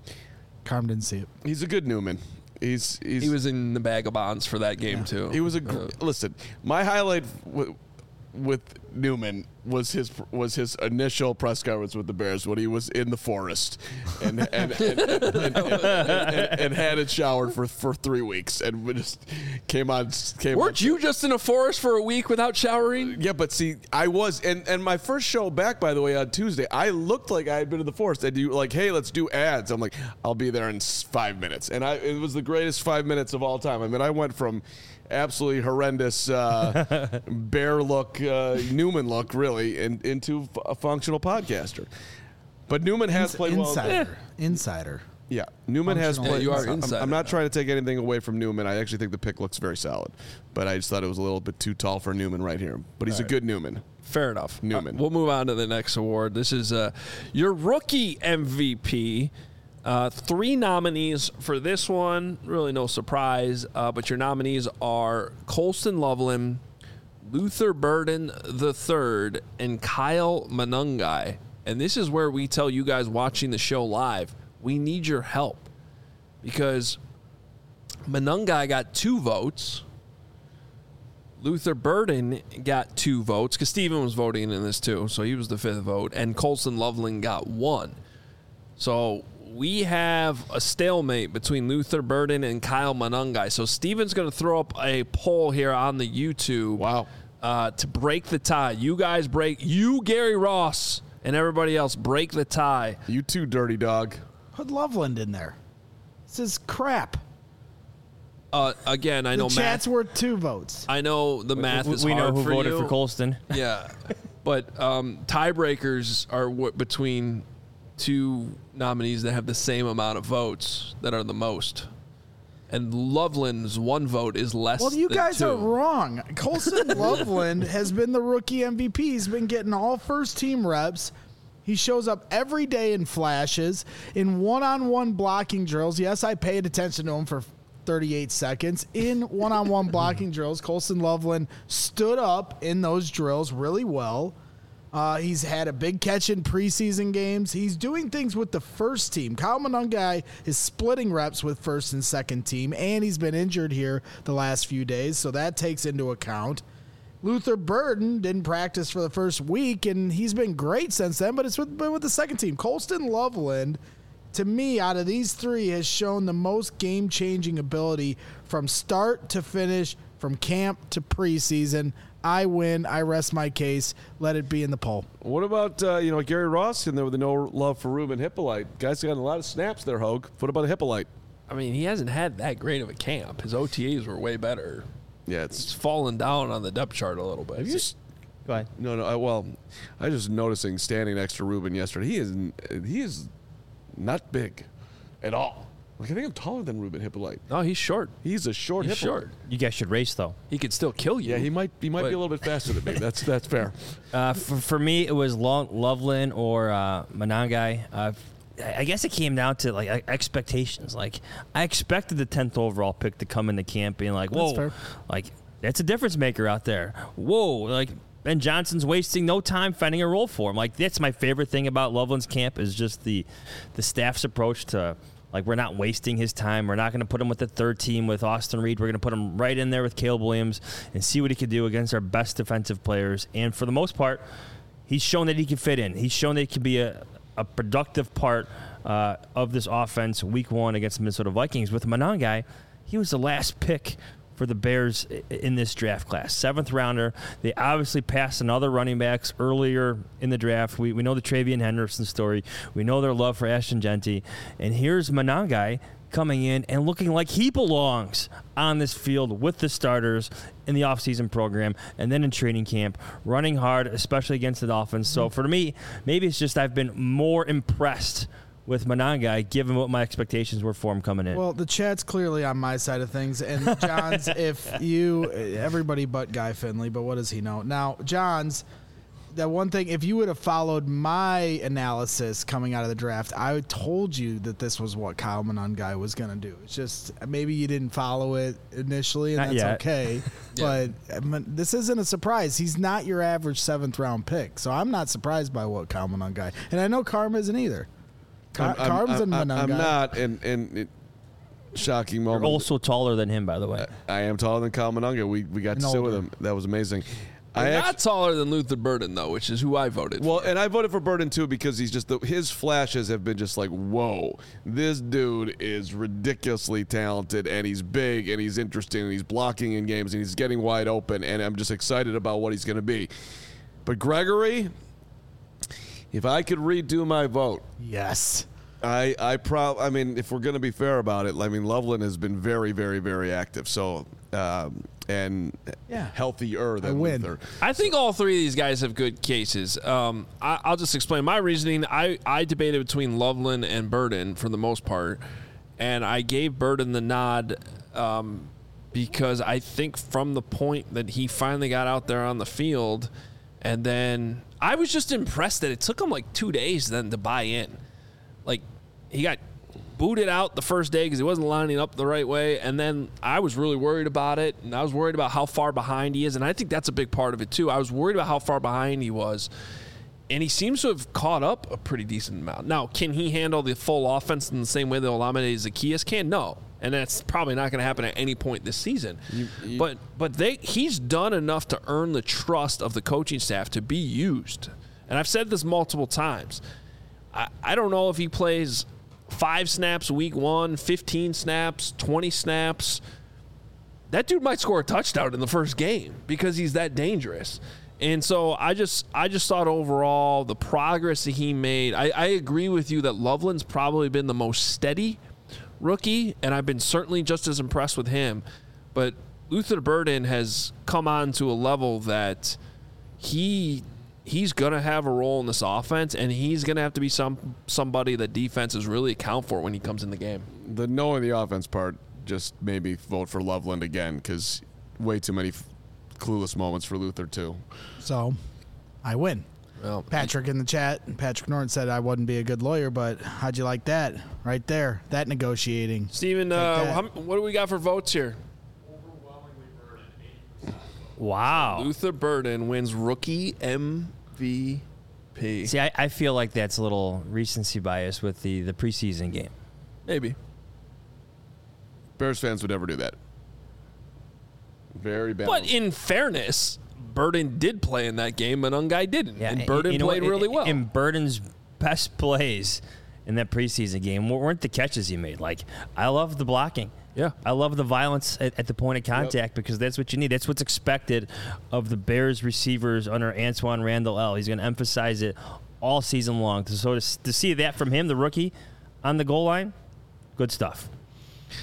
Carm didn't see it. He's a good Newman. He's, he's He was in the bag of bonds for that game, too. He was a gr- listen. My highlight w- with Newman was his was his initial press conference with the Bears when he was in the forest and and and, and, and, and, and, and hadn't showered for, for three weeks and we just came on. Came Weren't on, you just in a forest for a week without showering? Yeah, but see, I was, and, and my first show back, by the way, on Tuesday, I looked like I had been in the forest. And you like, hey, let's do ads. I'm like, I'll be there in s- five minutes, and I it was the greatest five minutes of all time. I mean, I went from absolutely horrendous uh, bear look, uh, Newman look, really, in, into f- a functional podcaster. But Newman has Ins- played well. Insider. Insider. Yeah, Newman has Functional played. Yeah, you are I'm- inside I'm, it not now. trying to take anything away from Newman. I actually think the pick looks very solid, but I just thought it was a little bit too tall for Newman right here. But he's a good Newman. Fair enough. Newman. Uh, we'll move on to the next award. This is uh, your rookie M V P. Uh, three nominees for this one. Really no surprise. Uh, but your nominees are Colston Loveland, Luther Burden the third, and Kyle Manungai. And this is where we tell you guys watching the show live, we need your help. Because Manungai got two votes. Luther Burden got two votes because Steven was voting in this too, so he was the fifth vote, and Colston Loveland got one. So we have a stalemate between Luther Burden and Kyle Manungai. So Steven's going to throw up a poll here on the YouTube. Wow. Uh, to break the tie. You guys break, you, Gary Ross, and everybody else break the tie. You too, dirty dog. Put Loveland in there. This is crap. Uh, again, I The know chat's math. worth two votes. I know the math we is we hard know who for voted you. for Colston. Yeah, but um, tiebreakers are what between two nominees that have the same amount of votes that are the most. And Loveland's one vote is less. Well, you than guys two. are wrong. Colston Loveland has been the rookie M V P. He's been getting all first team reps. He shows up every day in flashes, in one-on-one blocking drills. Yes, I paid attention to him for thirty-eight seconds. In one-on-one blocking drills, Colston Loveland stood up in those drills really well. Uh, he's had a big catch in preseason games. He's doing things with the first team. Kyle Manungai is splitting reps with first and second team, and he's been injured here the last few days, so that takes into account. Luther Burden didn't practice for the first week, and he's been great since then, but it's with, been with the second team. Colston Loveland, to me, out of these three, has shown the most game-changing ability from start to finish, from camp to preseason. I win. I rest my case. Let it be in the poll. What about uh, you know Gary Ross in there with the no love for Ruben Hippolyte? Guys got a lot of snaps there, Hogue. What about a Hippolyte? I mean, he hasn't had that great of a camp. His O T As were way better. Yeah, It's it's fallen down on the depth chart a little bit. have you s- Go ahead. no no. I, well, I was just noticing standing next to Ruben yesterday. He is he is not big at all. Like I think I'm taller than Ruben Hippolyte. No, he's short. He's a short He's Hippolyte. short. You guys should race though. He could still kill you. Yeah, he might. He might But- be a little bit faster than me. That's that's fair. Uh, for, for me, it was Lo- Loveland or uh, Monangai. Uh, I guess it came down to like expectations. Like I expected the tenth overall pick to come into camp being like, whoa, That's fair. like that's a difference maker out there. Whoa, like Ben Johnson's wasting no time finding a role for him. Like that's my favorite thing about Loveland's camp is just the the staff's approach to. Like, we're not wasting his time. We're not going to put him with the third team with Austin Reed. We're going to put him right in there with Caleb Williams and see what he can do against our best defensive players. And for the most part, he's shown that he can fit in. He's shown that he can be a, a productive part uh, of this offense week one against the Minnesota Vikings. With Monangai, he was the last pick for the Bears in this draft class. Seventh rounder. They obviously passed on other running backs earlier in the draft. We, we know the Travian Henderson story. We know their love for Ashton Genty. And here's Monangai coming in and looking like he belongs on this field with the starters in the offseason program and then in training camp, running hard, especially against the Dolphins. So for me, maybe it's just I've been more impressed with Monangai, given what my expectations were for him coming in. Well, the chat's clearly on my side of things. And John's, if you, everybody but Guy Finley, but what does he know? Now, John's, that one thing, if you would have followed my analysis coming out of the draft, I told you that this was what Kyle Monangai was going to do. It's just maybe you didn't follow it initially, and Not that's yet. okay. But I mean, this isn't a surprise. He's not your average seventh round pick. So I'm not surprised by what Kyle Monangai. And I know Karma isn't either. Car- I'm, I'm, Carbs and I'm, I'm Monangai. not, and and it, shocking You're moment. also taller than him, by the way. I am taller than Kyle Monangai. We we got And to sit with older. him. That was amazing. I You're actu- not taller than Luther Burden, though, which is who I voted Well, for. and I voted for Burden too because he's just the, his flashes have been just like, whoa, this dude is ridiculously talented and he's big and he's interesting and he's blocking in games and he's getting wide open and I'm just excited about what he's going to be. But Gregory, if I could redo my vote, Yes. I I prob I mean, if we're going to be fair about it, I mean Loveland has been very, very, very active. So um, and Yeah. healthier than I win. Luther. I think all three of these guys have good cases. Um, I, I'll just explain my reasoning. I, I debated between Loveland and Burden for the most part, and I gave Burden the nod um, because I think from the point that he finally got out there on the field, and then I was just impressed that it took him like two days then to buy in. Like, he got booted out the first day because he wasn't lining up the right way, and then I was really worried about it, and I was worried about how far behind he is, and I think that's a big part of it too. I was worried about how far behind he was, and he seems to have caught up a pretty decent amount. Now, can he handle the full offense in the same way that Olamide Zaccheaus can? No, and that's probably not going to happen at any point this season. You- you- but but they he's done enough to earn the trust of the coaching staff to be used, and I've said this multiple times. I, I don't know if he plays five snaps week one, fifteen snaps, twenty snaps. That dude might score a touchdown in the first game because he's that dangerous. And so I just I just thought overall the progress that he made, I, I agree with you that Loveland's probably been the most steady rookie, and I've been certainly just as impressed with him. But Luther Burden has come on to a level that he he's going to have a role in this offense, and he's going to have to be some somebody that defenses really account for when he comes in the game. The knowing the offense part just made me vote for Loveland again because way too many f- clueless moments for Luther too. So I win. Well, Patrick in the chat, Patrick Norton said I wouldn't be a good lawyer, but how'd you like that? Right there, that negotiating. Steven, Take uh, that. how, what do we got for votes here? Overwhelmingly Burden, eighty percent. Wow. Luther Burden wins rookie M V P. See, I, I feel like that's a little recency bias with the, the preseason game. Maybe. Bears fans would never do that. Very balanced. But in fairness, Burden did play in that game, and Ungai didn't. and Burden you know played what? really well. And Burden's best plays in that preseason game weren't the catches he made. Like, I love the blocking. Yeah. I love the violence at, at the point of contact because that's what you need. That's what's expected of the Bears receivers under Antoine Randall L. He's going to emphasize it all season long. So to, to see that from him, the rookie, on the goal line, good stuff.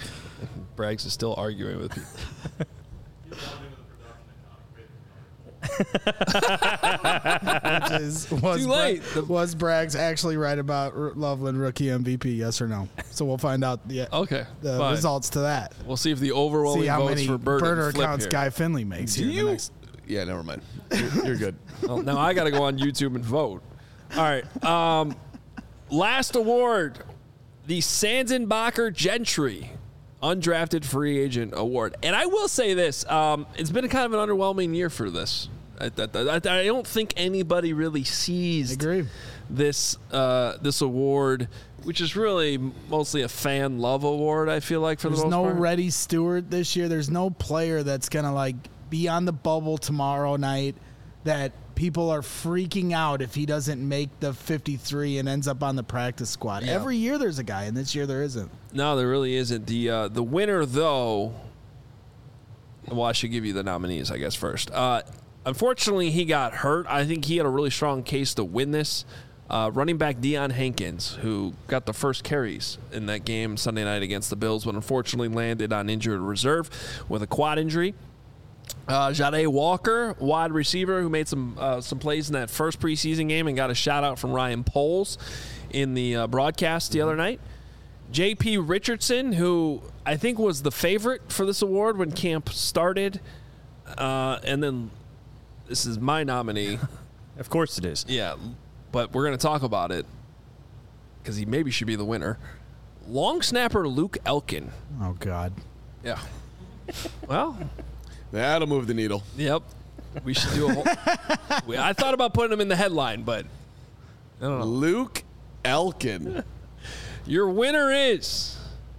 Braggs is still arguing with you. He's loving with the production and Which is, was Too late. Bra- was Braggs actually right about R- Loveland rookie M V P? Yes or no? So we'll find out the Okay, the fine. results to that. We'll see if the overwhelming See how votes many for Burden burner flip accounts here. Guy Finley makes Do here. in the you? next- Yeah, never mind. You're, you're good. Well, now I got to go on YouTube and vote. All right. Um, last award, the Sandenbacher Gentry Undrafted Free Agent Award. And I will say this, um, it's been a kind of an underwhelming year for this. I, I, I, I don't think anybody really seized Agree. this uh, this award, which is really mostly a fan love award, I feel like, for There's the most no part. Reddy Stewart this year. There's no player that's gonna like be on the bubble tomorrow night that people are freaking out if he doesn't make the fifty-three and ends up on the practice squad. Yeah. Every year there's a guy, and this year there isn't. No, there really isn't. The uh, the winner, though. Well, I should give you the nominees, I guess, first. Uh, unfortunately, he got hurt. I think he had a really strong case to win this. Uh, running back Deion Hankins, who got the first carries in that game Sunday night against the Bills, but unfortunately landed on injured reserve with a quad injury. Uh, Jade Walker, wide receiver, who made some uh, some plays in that first preseason game and got a shout out from Ryan Poles in the uh, broadcast the other night. J P Richardson, who I think was the favorite for this award when camp started, uh, and then this is my nominee. Of course it is. Yeah, but we're going to talk about it because he maybe should be the winner. Long snapper Luke Elkin. Oh God. Yeah. Well. That'll move the needle. Yep. We should do a whole. we, I thought about putting him in the headline, but I don't know. Luke Elkin. Your winner is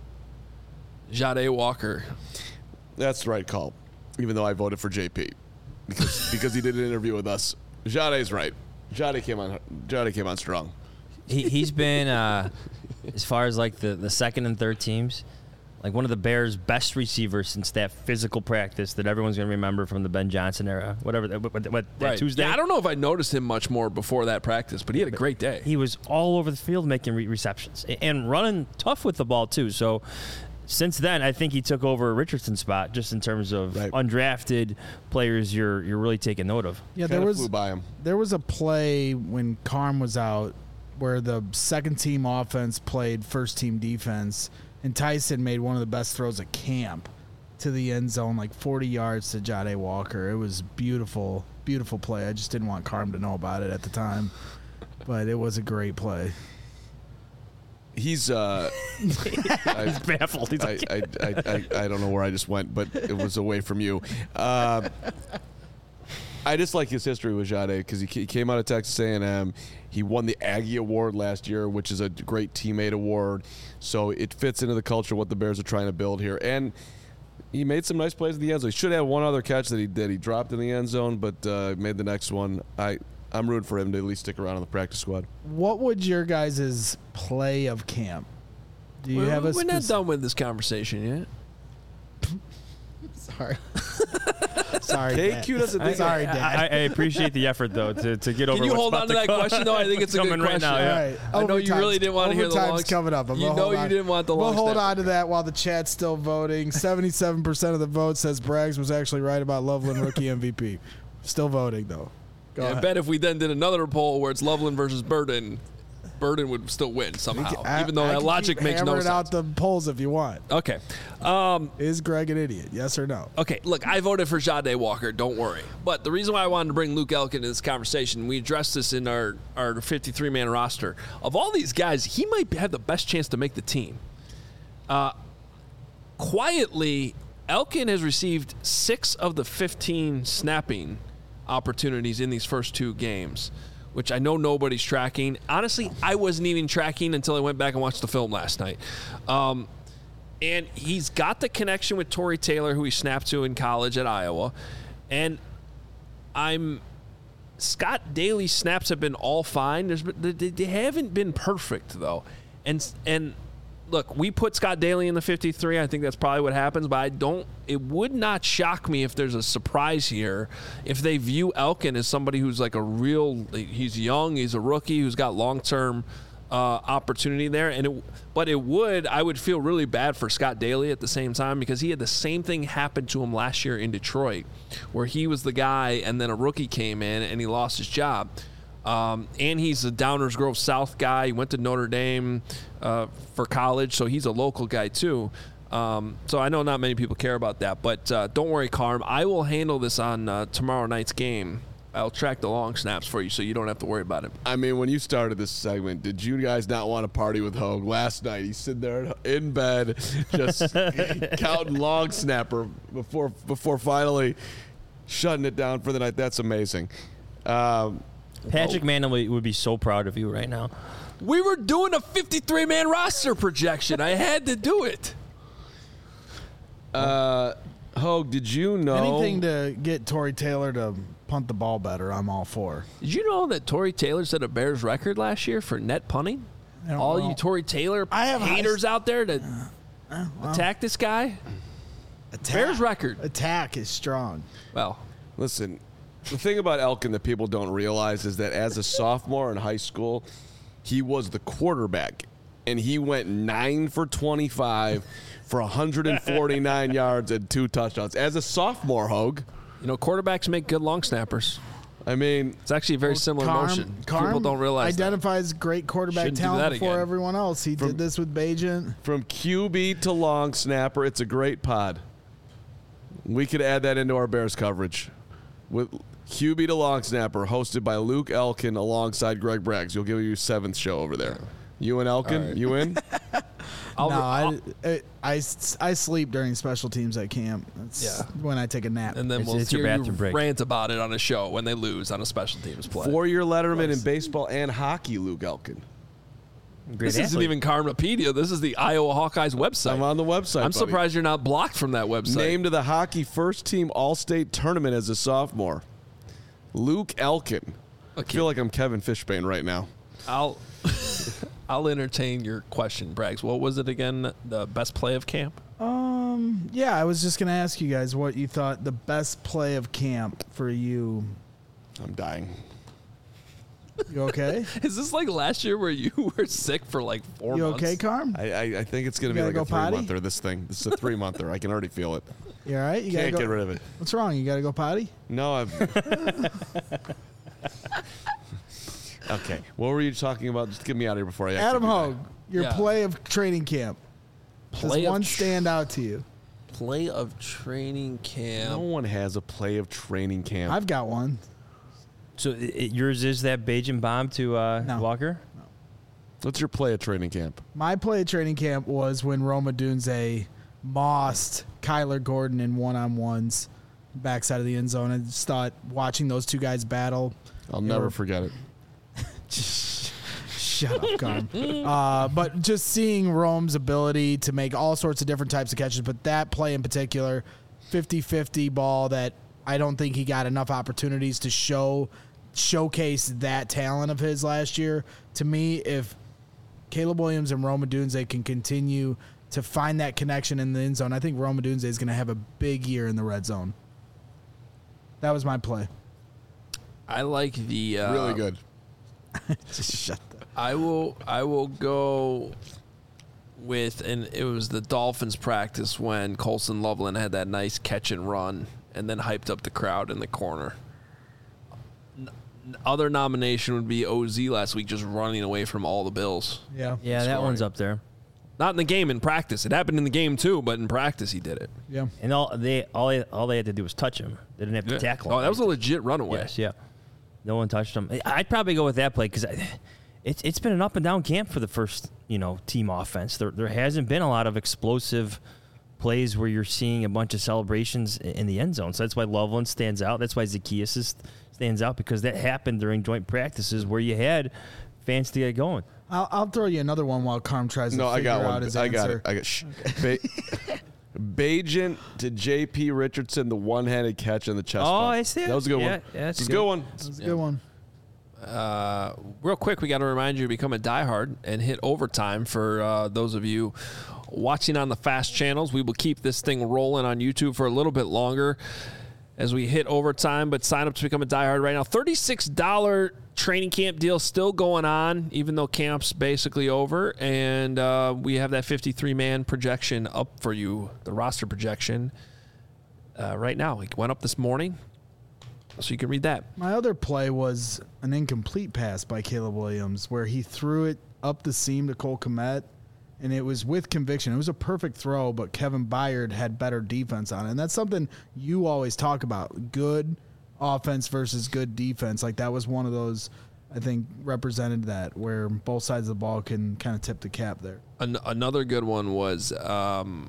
Jade Walker. That's the right call, even though I voted for J P because because he did an interview with us. Jade's right. Jade came on. Jade came on strong. He, he's been, uh, as far as like the, the second and third teams, like one of the Bears' best receivers since that physical practice that everyone's going to remember from the Ben Johnson era. Whatever, what, what, what, that Right. Tuesday? Yeah, I don't know if I noticed him much more before that practice, but he had a great day. He was all over the field making re- receptions a- and running tough with the ball, too. So since then, I think he took over Richardson's spot just in terms of Right. undrafted players you're you're really taking note of. Yeah, Kinda there was flew by him. there was a play when Carm was out where the second team offense played first team defense, and Tyson made one of the best throws at camp to the end zone, like forty yards to Jade Walker. It was beautiful, beautiful play. I just didn't want Carm to know about it at the time, but it was a great play. He's uh, I, He's baffled. He's I, like, I, I, I, I don't know where I just went, but it was away from you. Uh, I just like his history with Jade because he, he came out of Texas A and M. He won the Aggie Award last year, which is a great teammate award. So it fits into the culture of what the Bears are trying to build here. And he made some nice plays in the end zone. He should have one other catch that he that he dropped in the end zone, but uh, made the next one. I I'm rooting for him to at least stick around on the practice squad. What would your guys' play of camp? Do you we're have a we're not spec- done with this conversation yet. Sorry. Sorry. K Dad. Q doesn't think Sorry, I, Dad. I appreciate the effort, though, to, to get over Can you what's hold about on to that come- question, though? I think it's a good coming right question. now. All Yeah. right. I know you Overtime's- really didn't want to hear the overtime's long. coming up. I'm You gonna know hold you on. didn't want the We'll long. hold snapper. on to that while the chat's still voting. seventy-seven percent of the vote says Braggs was actually right about Loveland rookie M V P. Still voting, though. Go Yeah, I ahead. bet if we then did another poll where it's Loveland versus Burden, Burden would still win somehow, I- even though I that can logic keep makes no hammering sense. out the polls if you want. Okay. Um, Is Greg an idiot? Yes or no? okay, look, I voted for Jade Walker, don't worry. But the reason why I wanted to bring Luke Elkin into this conversation, we addressed this in our, our fifty-three man roster. Of all these guys, he might have the best chance to make the team. Uh, quietly, Elkin has received six of the fifteen snapping opportunities in these first two games, which I know nobody's tracking. Honestly, I wasn't even tracking until I went back and watched the film last night. Um, and he's got the connection with Torrey Taylor, who he snapped to in college at Iowa. And I'm Scott Daly's snaps have been all fine. There's been, they, they haven't been perfect though. And and look, we put Scott Daly in the fifty-three. I think that's probably what happens, but I don't it would not shock me if there's a surprise here if they view Elkin as somebody who's like a real he's young, he's a rookie who's got long-term uh, opportunity there. And it, but it would, I would feel really bad for Scott Daly at the same time because he had the same thing happen to him last year in Detroit, where he was the guy and then a rookie came in and he lost his job. Um, and he's a Downers Grove South guy. He went to Notre Dame uh, for college, so he's a local guy too. Um, so I know not many people care about that, but uh, don't worry, Carm. I will handle this on uh, tomorrow night's game. I'll track the long snaps for you so you don't have to worry about it. I mean, when you started this segment, did you guys not want to party with Hogue last night? He's sitting there in bed just counting long snapper before before finally shutting it down for the night. That's amazing. Um, Patrick oh. Manning would be so proud of you right now. We were doing a fifty-three man roster projection. I had to do it. Uh, Hogue, did you know anything to get Tory Taylor to punt the ball better? I'm all for. Did you know that Tory Taylor set a Bears record last year for net punting? All know. you Tory Taylor I have haters high, out there to uh, well, attack this guy. Attack, Bears record. Attack is strong. Well, listen. The thing about Elkin that people don't realize is that as a sophomore in high school, he was the quarterback, and he went nine for twenty-five for one hundred forty-nine yards and two touchdowns. As a sophomore, Hogue. You know, quarterbacks make good long snappers. I mean, it's actually a very well, similar Carm, motion. Carm People don't realize identifies that. great quarterback Shouldn't talent before again. everyone else. He from, did this with Bajent. From Q B to long snapper, it's a great pod. We could add that into our Bears coverage. With Q B to long snapper, hosted by Luke Elkin alongside Greg Braggs. You'll give you seventh show over there. You and Elkin, right. you in? I'll, no, I, I, I, I sleep during special teams at camp. That's yeah. when I take a nap. And then it's, we'll it's hear your you bathroom break. rant about it on a show when they lose on a special teams play. Four-year letterman in baseball and hockey, Luke Elkin. Great this athlete. isn't even Karmapedia. This is the Iowa Hawkeyes website. I'm on the website, I'm buddy. surprised you're not blocked from that website. Named to the hockey first-team All-State tournament as a sophomore. Luke Elkin. Okay. I feel like I'm Kevin Fishbane right now. I'll I'll entertain your question, Braggs. What was it again? The best play of camp? Um, yeah, I was just gonna ask you guys what you thought the best play of camp for you. I'm dying. You okay? Is this like last year where you were sick for like four you months? okay, Carm? I, I, I think it's going to You be like gotta a go potty? three-monther, this thing. This is a three-monther. I can already feel it. You all right? You Can't gotta get go, rid of it. What's wrong? You gotta go potty? No, I've... Okay. What were you talking about? Just get me out of here before I actually Adam do that. Hogue, your Yeah. play of training camp. Play Does of one tr- stand out to you? Play of training camp. No one has a play of training camp. I've got one. So it, it- yours is that Bajan bomb to uh, No. Walker? What's your play of training camp? My play at training camp was when Roma Dunze mossed Kyler Gordon in one-on-ones backside of the end zone. I just thought watching those two guys battle. I'll you never know, forget it. Shut up, Carm. uh, but just seeing Rome's ability to make all sorts of different types of catches, but that play in particular, fifty-fifty ball that I don't think he got enough opportunities to show showcase that talent of his last year. To me, if Caleb Williams and Rome Odunze can continue to find that connection in the end zone, I think Rome Odunze is going to have a big year in the red zone. That was my play. I like the uh, Really good. Just shut the I will I will go with, and it was the Dolphins practice when Colson Loveland had that nice catch and run and then hyped up the crowd in the corner. N- other nomination would be O Z last week, just running away from all the Bills. Yeah. Yeah, that Scoring. one's up there. Not in the game, in practice. It happened in the game too, but in practice he did it. Yeah. And all they all they, all they had to do was touch him. They didn't have to Yeah. tackle him. Oh, that was a legit runaway. Yes, yeah. No one touched him. I'd probably go with that play because it's it's been an up and down camp for the first you know team offense. There there hasn't been a lot of explosive plays where you're seeing a bunch of celebrations in the end zone. So that's why Loveland stands out. That's why Zacchaeus is, stands out because that happened during joint practices where you had fans to get going. I'll, I'll throw you another one while Carm tries to No, I figure got out one. his I answer. got it. I got shh. Ba- Bajent to J P Richardson, the one-handed catch in the chest. Oh, bump. I see it. That was a good Yeah, one. yeah, that's That's a good. good one. That's a good one. Uh, real quick, we got to remind you to become a diehard and hit overtime for uh, those of you watching on the fast channels. We will keep this thing rolling on YouTube for a little bit longer. as we hit overtime, but sign up to become a diehard right now. thirty-six dollars training camp deal still going on, even though camp's basically over. And uh, we have that fifty-three man projection up for you, the roster projection, uh, right now. It went up this morning, so you can read that. My other play was an incomplete pass by Caleb Williams where he threw it up the seam to Cole Kmet, and it was with conviction. It was a perfect throw, but Kevin Byard had better defense on it. And that's something you always talk about, good offense versus good defense. Like that was one of those, I think, represented that, where both sides of the ball can kind of tip the cap there. An- another good one was um,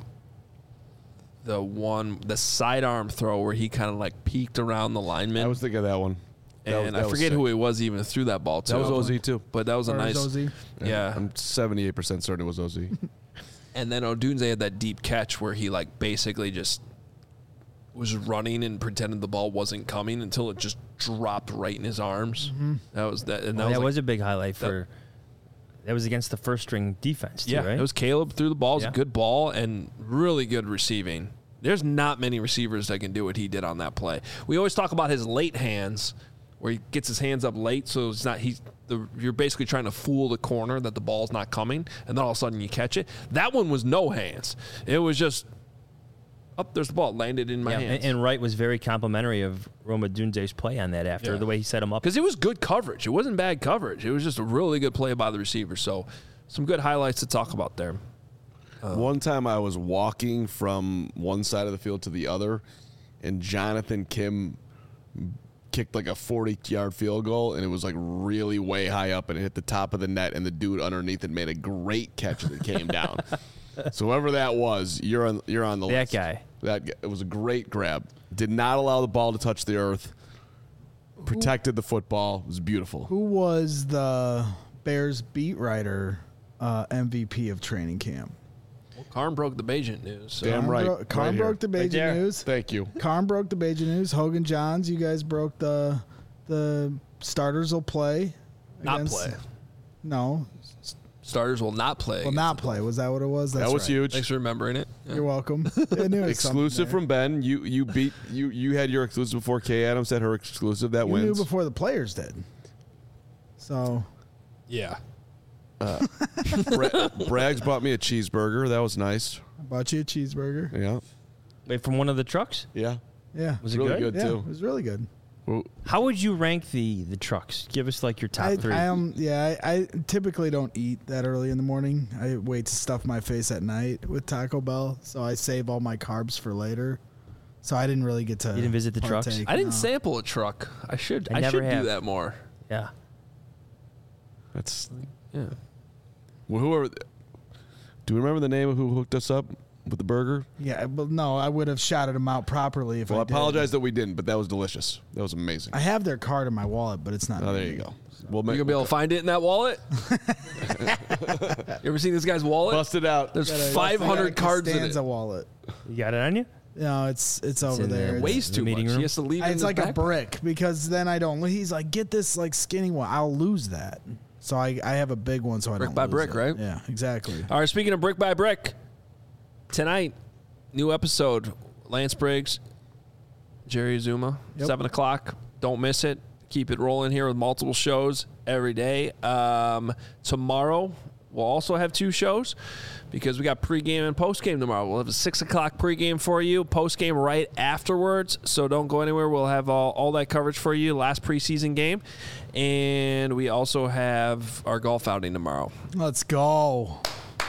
the one, the sidearm throw where he kind of like peeked around the lineman. I was thinking of that one. That and was- that I was forget sick. who it was even threw that ball to. That was O Z too. But that was a Or nice. was O Z? Yeah. I'm seventy-eight percent certain it was O Z. And then Odunze had that deep catch where he like basically just was running and pretended the ball wasn't coming until it just dropped right in his arms. Mm-hmm. That was that. And that Well, was, that like, was a big highlight for. That was against the first string defense, too, yeah. right? It was Caleb threw the ball. It was Yeah. a good ball and really good receiving. There's not many receivers that can do what he did on that play. We always talk about his late hands, where he gets his hands up late, so it's not he's the you're basically trying to fool the corner that the ball's not coming, and then all of a sudden you catch it. That one was no hands. It was just up. There's the ball landed in my yeah, hands. and, and Wright was very complimentary of Roma Dunze's play on that after Yeah. the way he set him up. Because it was good coverage. It wasn't bad coverage. It was just a really good play by the receiver. So some good highlights to talk about there. One time I was walking from one side of the field to the other, and Jonathan Kim kicked like a forty-yard field goal, and it was like really way high up, and it hit the top of the net, and the dude underneath it made a great catch that came down. So whoever that was, you're on you're on the That list. guy. That guy. It was a great grab. Did not allow the ball to touch the earth. Protected the football. It was beautiful. Who was the Bears beat writer uh, M V P of training camp? Karn broke the Bajent news. So. Damn Karn right. bro- Karn Right here. broke the Right Bajan there. news. Thank you. Karn broke the Bajan news. Hogan Johns, you guys broke the the starters will play. Not against- play. No, Starters will not play. will not play. Was that what it was? That's That was right. huge. Thanks for remembering it. Yeah. You're welcome. I knew it was Exclusive something from Ben. You you beat you you had your exclusive before Kay Adams had her exclusive. That there. You wins. knew before the players did. So Yeah. Bra- Braggs bought me a cheeseburger. That was nice. I bought you a cheeseburger. Yeah, Wait, from one of the trucks? yeah. Yeah, Was it Really good? good. yeah, too. it was really good. Well, How would you rank the the trucks? Give us like your top I, three. I am yeah. I, I typically don't eat that early in the morning. I wait to stuff my face at night with Taco Bell, so I save all my carbs for later. So I didn't really get to. You didn't visit the trucks? partake, I didn't no. sample a truck. I should. I I, never should have. do that more. yeah. that's Yeah. well, whoever. Do you remember the name of who hooked us up with the burger? Yeah, but no, I would have shouted them out properly if Well, I, I did. apologize that we didn't, but that was delicious. That was amazing. I have their card in my wallet, but it's not. Oh, there in you me. go. We'll You make, gonna be able to find it in that wallet? You ever seen this guy's wallet? bust it out. There's Got a- five got a hundred cards in Costanza it. wallet. You got it on you? No, it's it's over in there. there. It's- Weighs The too meeting much. room? He has to leave it in It's his like a backpack. brick because then I don't. He's like, get this like skinny one. I'll lose that. So I, I have a big one, so I Brick don't by lose brick, it. right? Yeah, exactly. All right, speaking of brick by brick, tonight, new episode, Lance Briggs, Jerry Azuma, Yep. seven o'clock. Don't miss it. Keep it rolling here with multiple shows every day. Um, tomorrow, we'll also have two shows because we got pregame and postgame tomorrow. We'll have a six o'clock pregame for you, postgame right afterwards. So don't go anywhere. We'll have all, all that coverage for you, last preseason game. And we also have our golf outing tomorrow. Let's go.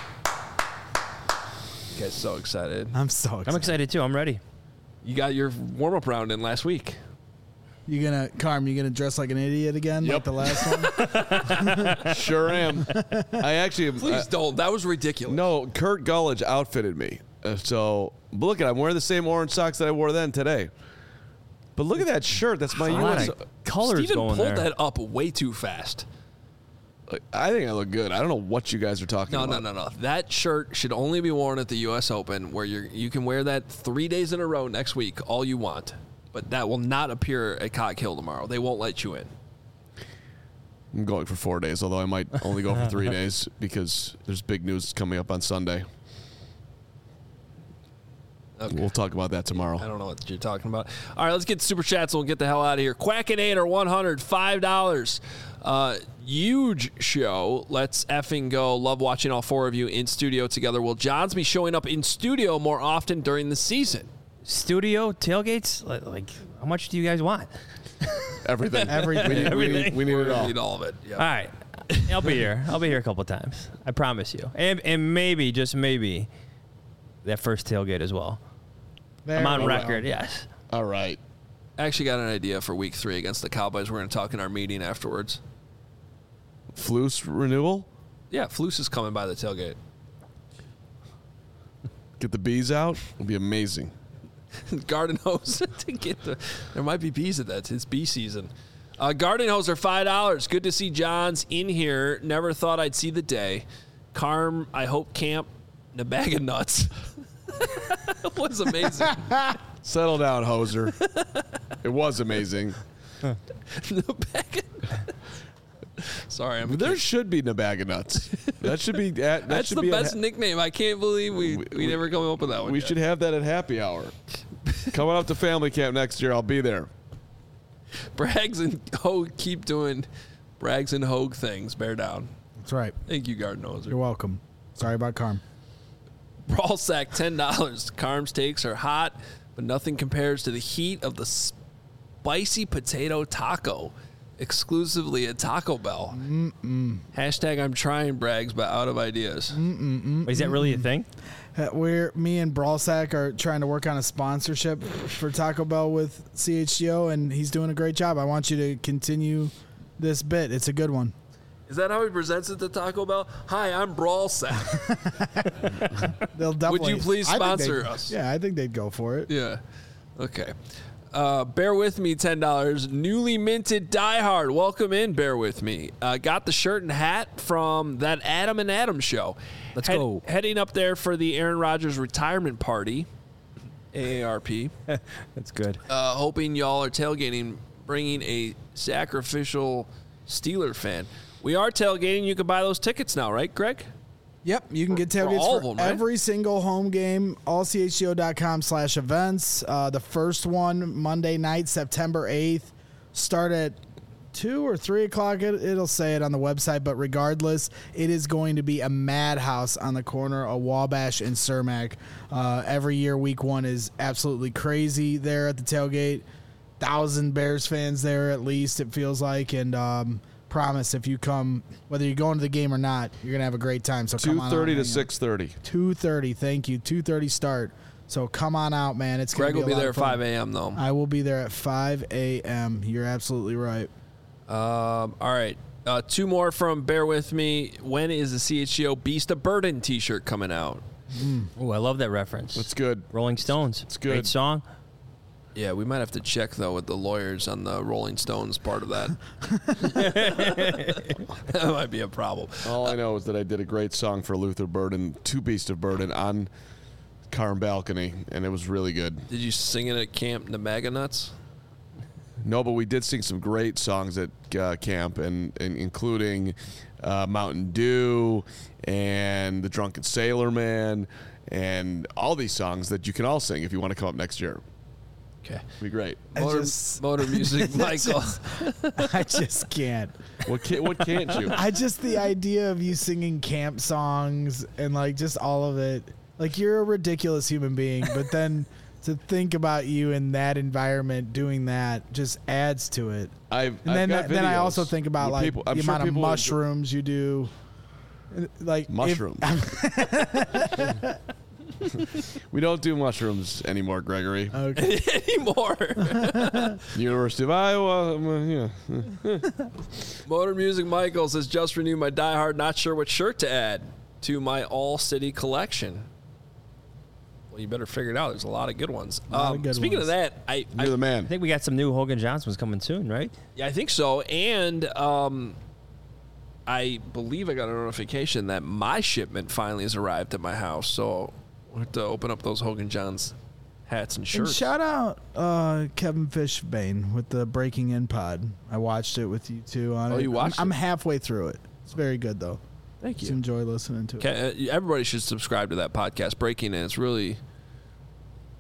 You guys so excited. I'm so excited. I'm excited too. I'm ready. You got your warm-up round in last week. You gonna, Carm? You gonna dress like an idiot again, like Yep. the last one? Sure am. I actually am. Please uh, don't. That was ridiculous. No, Kurt Gullidge outfitted me. Uh, so but look at, I'm wearing the same orange socks that I wore then today. But look at that shirt. That's my A lot U S. of colors Steven going pulled there. that up way too fast. I think I look good. I don't know what you guys are talking No, about. no, no, no. That shirt should only be worn at the U S Open, where you you can wear that three days in a row next week, all you want. But that will not appear at Cock Hill tomorrow. They won't let you in. I'm going for four days, although I might only go for three days because there's big news coming up on Sunday. Okay. We'll talk about that tomorrow. I don't know what you're talking about. All right, let's get super chats and we'll get the hell out of here. Quackinator one hundred, five dollars. Uh, huge show. Let's effing go. Love watching all four of you in studio together. Will Johns be showing up in studio more often during the season? Studio tailgates? Like, like how much do you guys want? Everything. Everything. We need, we Everything. need, we need it We all. need all of it. Yep. All right. I'll be here. I'll be here a couple times. I promise you. And, and maybe, just maybe, that first tailgate as well. There I'm on we record, go. yes. All right. I actually got an idea for week three against the Cowboys. We're going to talk in our meeting afterwards. Flus renewal? Yeah, Flus is coming by the tailgate. Get the bees out? It'll be amazing. Garden hose to get the. There might be bees at that. It's bee season. Uh, garden hose are five dollars. Good to see John's in here. Never thought I'd see the day. Carm, I hope camp. The bag of nuts. was amazing. Settle down, hoser. It was amazing. The bag of- Sorry, I'm. There should be Nabaga nuts. That should be. At, that That's should the be at best ha- nickname. I can't believe we, we, We- never come up with that one. We yet. should have that at happy hour. Coming up to family camp next year, I'll be there. Braggs and Hogue keep doing Braggs and Hogue things. Bear down. That's right. Thank you, Garden Hoser. You're welcome. Sorry about Carm. Brawl sack ten dollars. Carm's takes are hot, but nothing compares to the heat of the spicy potato taco, exclusively at Taco Bell. Mm-mm. Hashtag I'm trying Braggs, but out of ideas. Wait, is that really a thing? Uh, We're me and Brawlsack are trying to work on a sponsorship for Taco Bell with C H G O, and he's doing a great job. I want you to continue this bit. It's a good one. Is that how he presents it to Taco Bell? Hi, I'm Brawl Sack. They'll definitely. you please I think sponsor they'd- us? Yeah, I think they'd go for it. Yeah. Okay. Uh, bear with me, ten dollars. Newly minted Die Hard. Welcome in, bear with me. Uh, got the shirt and hat from that Adam and Adam show. Let's go. Heading up there for the Aaron Rodgers retirement party, A A R P. That's good. Uh, hoping y'all are tailgating, bringing a sacrificial Steeler fan. We are tailgating. You can buy those tickets now, right, Greg? Yep, you can get For- for tailgates all for, of them, right? every single home game. all c h g o dot com slash events. Uh, the first one, Monday night, September eighth, start at two or three o'clock. It, it'll say it on the website, but regardless, it is going to be a madhouse on the corner of Wabash and Cermak. Uh, every year, week one is absolutely crazy there at the tailgate. Thousand Bears fans there at least, it feels like, and um, promise if you come, whether you're going to the game or not, you're gonna have a great time. So Two come on thirty out, to hang out. six thirty. two thirty, thank you. two thirty start. So come on out, man. It's gonna Greg be will a be lot there of at fun. five a.m. though. I will be there at five a.m. You're absolutely right. Um, all right. Uh, two more from Bear With Me. When is the C H G O Beast of Burden t-shirt coming out? Oh, I love that reference. That's good. Rolling Stones. It's good. Great song. Yeah, we might have to check, though, with the lawyers on the Rolling Stones part of that. That might be a problem. All I know is that I did a great song for Luther Burden, Two Beast of Burden, on Carm Balcony, and it was really good. Did you sing it at Camp Namaga Nuts? No, but we did sing some great songs at uh, camp, and, and including uh, Mountain Dew and The Drunken Sailor Man, and all these songs that you can all sing if you want to come up next year. Okay. It'd be great. I Motor, just- motor music, Michael. I just can't. What can't, what can't you? I just the idea of you singing camp songs and like just all of it. Like you're a ridiculous human being, but then to think about you in that environment doing that just adds to it. I've, And then, I've got then I videos also think about where like people- I'm the sure amount of people would- mushrooms you do. Like if- Mushrooms. We don't do mushrooms anymore, Gregory. okay. Anymore. University of Iowa. um, uh, yeah. Motor Music Michael says, just renewed my Die Hard, not sure what shirt to add to my All City collection. Well, you better figure it out. There's a lot of good ones. A lot of Um, good speaking ones. of that, I, I You're the I man. think we got some new Hogan Johnsons coming soon, right? Yeah, I think so. And um, I believe I got a notification that my shipment finally has arrived at my house. So we'll have to open up those Hogan Johns hats and And shirts. shout out uh, Kevin Fishbane with the Breaking In pod. I watched it with you two on Oh, it. you watched I'm, I'm it? halfway through it. It's very good though. Thank Just you. enjoy listening to it. Okay, uh, everybody should subscribe to that podcast, Breaking In. It's really,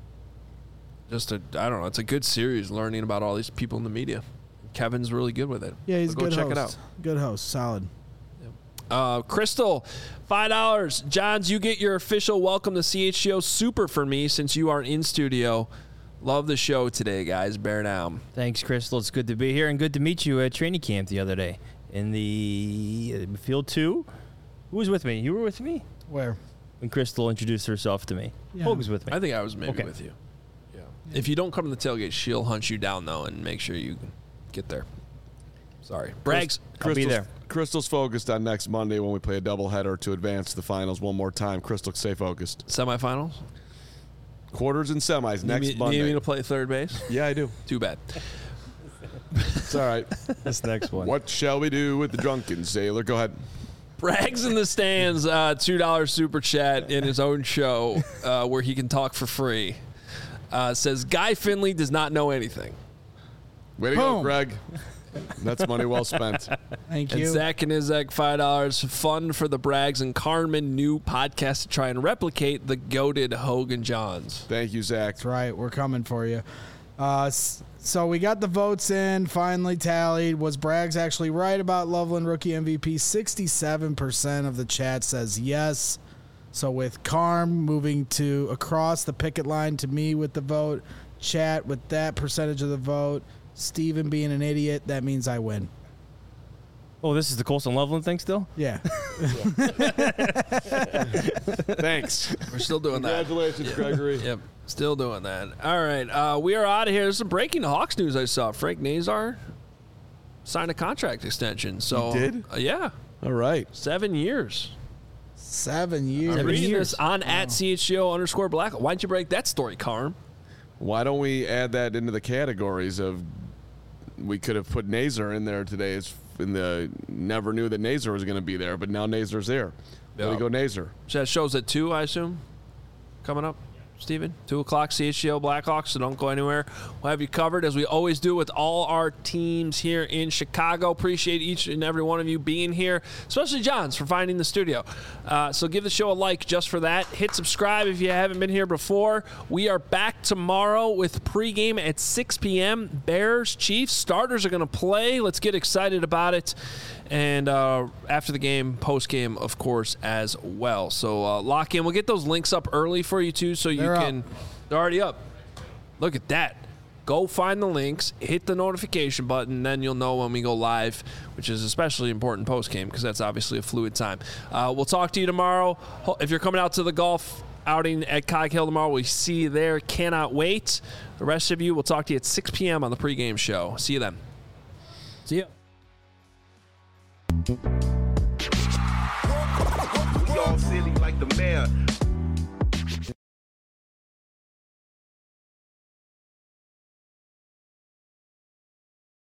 just a I don't know. It's a good series, learning about all these people in the media. Kevin's really good with it. Yeah, he's so a good go check host. it out. Good host, solid. Uh, Crystal, five dollars. Johns, you get your official welcome to C H G O super for me since you aren't in studio. Love the show today, guys. Bear down. Thanks, Crystal. It's good to be here and good to meet you at training camp the other day in the uh, field two. Who was with me? You were with me? Where? When Crystal introduced herself to me. Yeah. Hogue was with me. I think I was maybe Okay. with you. Yeah. If you don't come to the tailgate, she'll hunt you down, though, and make sure you get there. Sorry. Brags. I'll be there. Crystal's focused on next Monday when we play a doubleheader to advance to the finals one more time. Crystal, stay focused. Semifinals? Quarters and semis next you, Monday. You need me to play third base? Yeah, I do. Too bad. It's all right. This next one. What shall we do with the drunken sailor? Go ahead. Brags in the stands, uh, two dollars super chat in his own show uh, where he can talk for free. Uh, says, Guy Finley does not know anything. Way to go, Boom. Greg. That's money well spent. Thank And you. Zach and Izek, five dollars. Fun for the Brags and Carmen new podcast to try and replicate the goated Hogan Johns. Thank you, Zach. That's right. We're coming for you. Uh, s- so we got the votes in, finally tallied. Was Braggs actually right about Loveland rookie M V P? sixty-seven percent of the chat says yes. So with Carm moving to across the picket line to me with the vote, chat with that percentage of the vote, Steven being an idiot, that means I win. Oh, this is the Colson Loveland thing still? Yeah. Thanks. We're still doing that. Congratulations, Gregory. Yep, still doing that. All right, uh, we are out of here. There's some breaking Hawks news I saw. Frank Nazar signed a contract extension. So He did? Uh, yeah, All right. seven years. Seven years. I'm Seven reading years. this on at C H G O underscore black. Why don't you break that story, Carm? Why don't we add that into the categories of we could have put Nazar in there today as in the never knew that Nazar was going to be there, but now Nazar's there. There we Yeah. go, Nazar. So that shows at two, I assume, coming up. Steven, two o'clock, C H G O Blackhawks, so don't go anywhere. We'll have you covered, as we always do with all our teams here in Chicago. Appreciate each and every one of you being here, especially Johns for finding the studio. Uh, so give the show a like just for that. Hit subscribe if you haven't been here before. We are back tomorrow with pregame at six p.m. Bears, Chiefs. Starters are going to play. Let's get excited about it. And uh, after the game, post-game, of course, as well. So uh, lock in. We'll get those links up early for you, too, so you They're can... up. They're already up. Look at that. Go find the links, hit the notification button, then you'll know when we go live, which is especially important post-game because that's obviously a fluid time. Uh, we'll talk to you tomorrow. Ho- If you're coming out to the golf outing at Cog Hill tomorrow, we see you there. Cannot wait. The rest of you, we'll talk to you at six p.m. on the pregame show. See you then. See ya. We all silly like the mayor.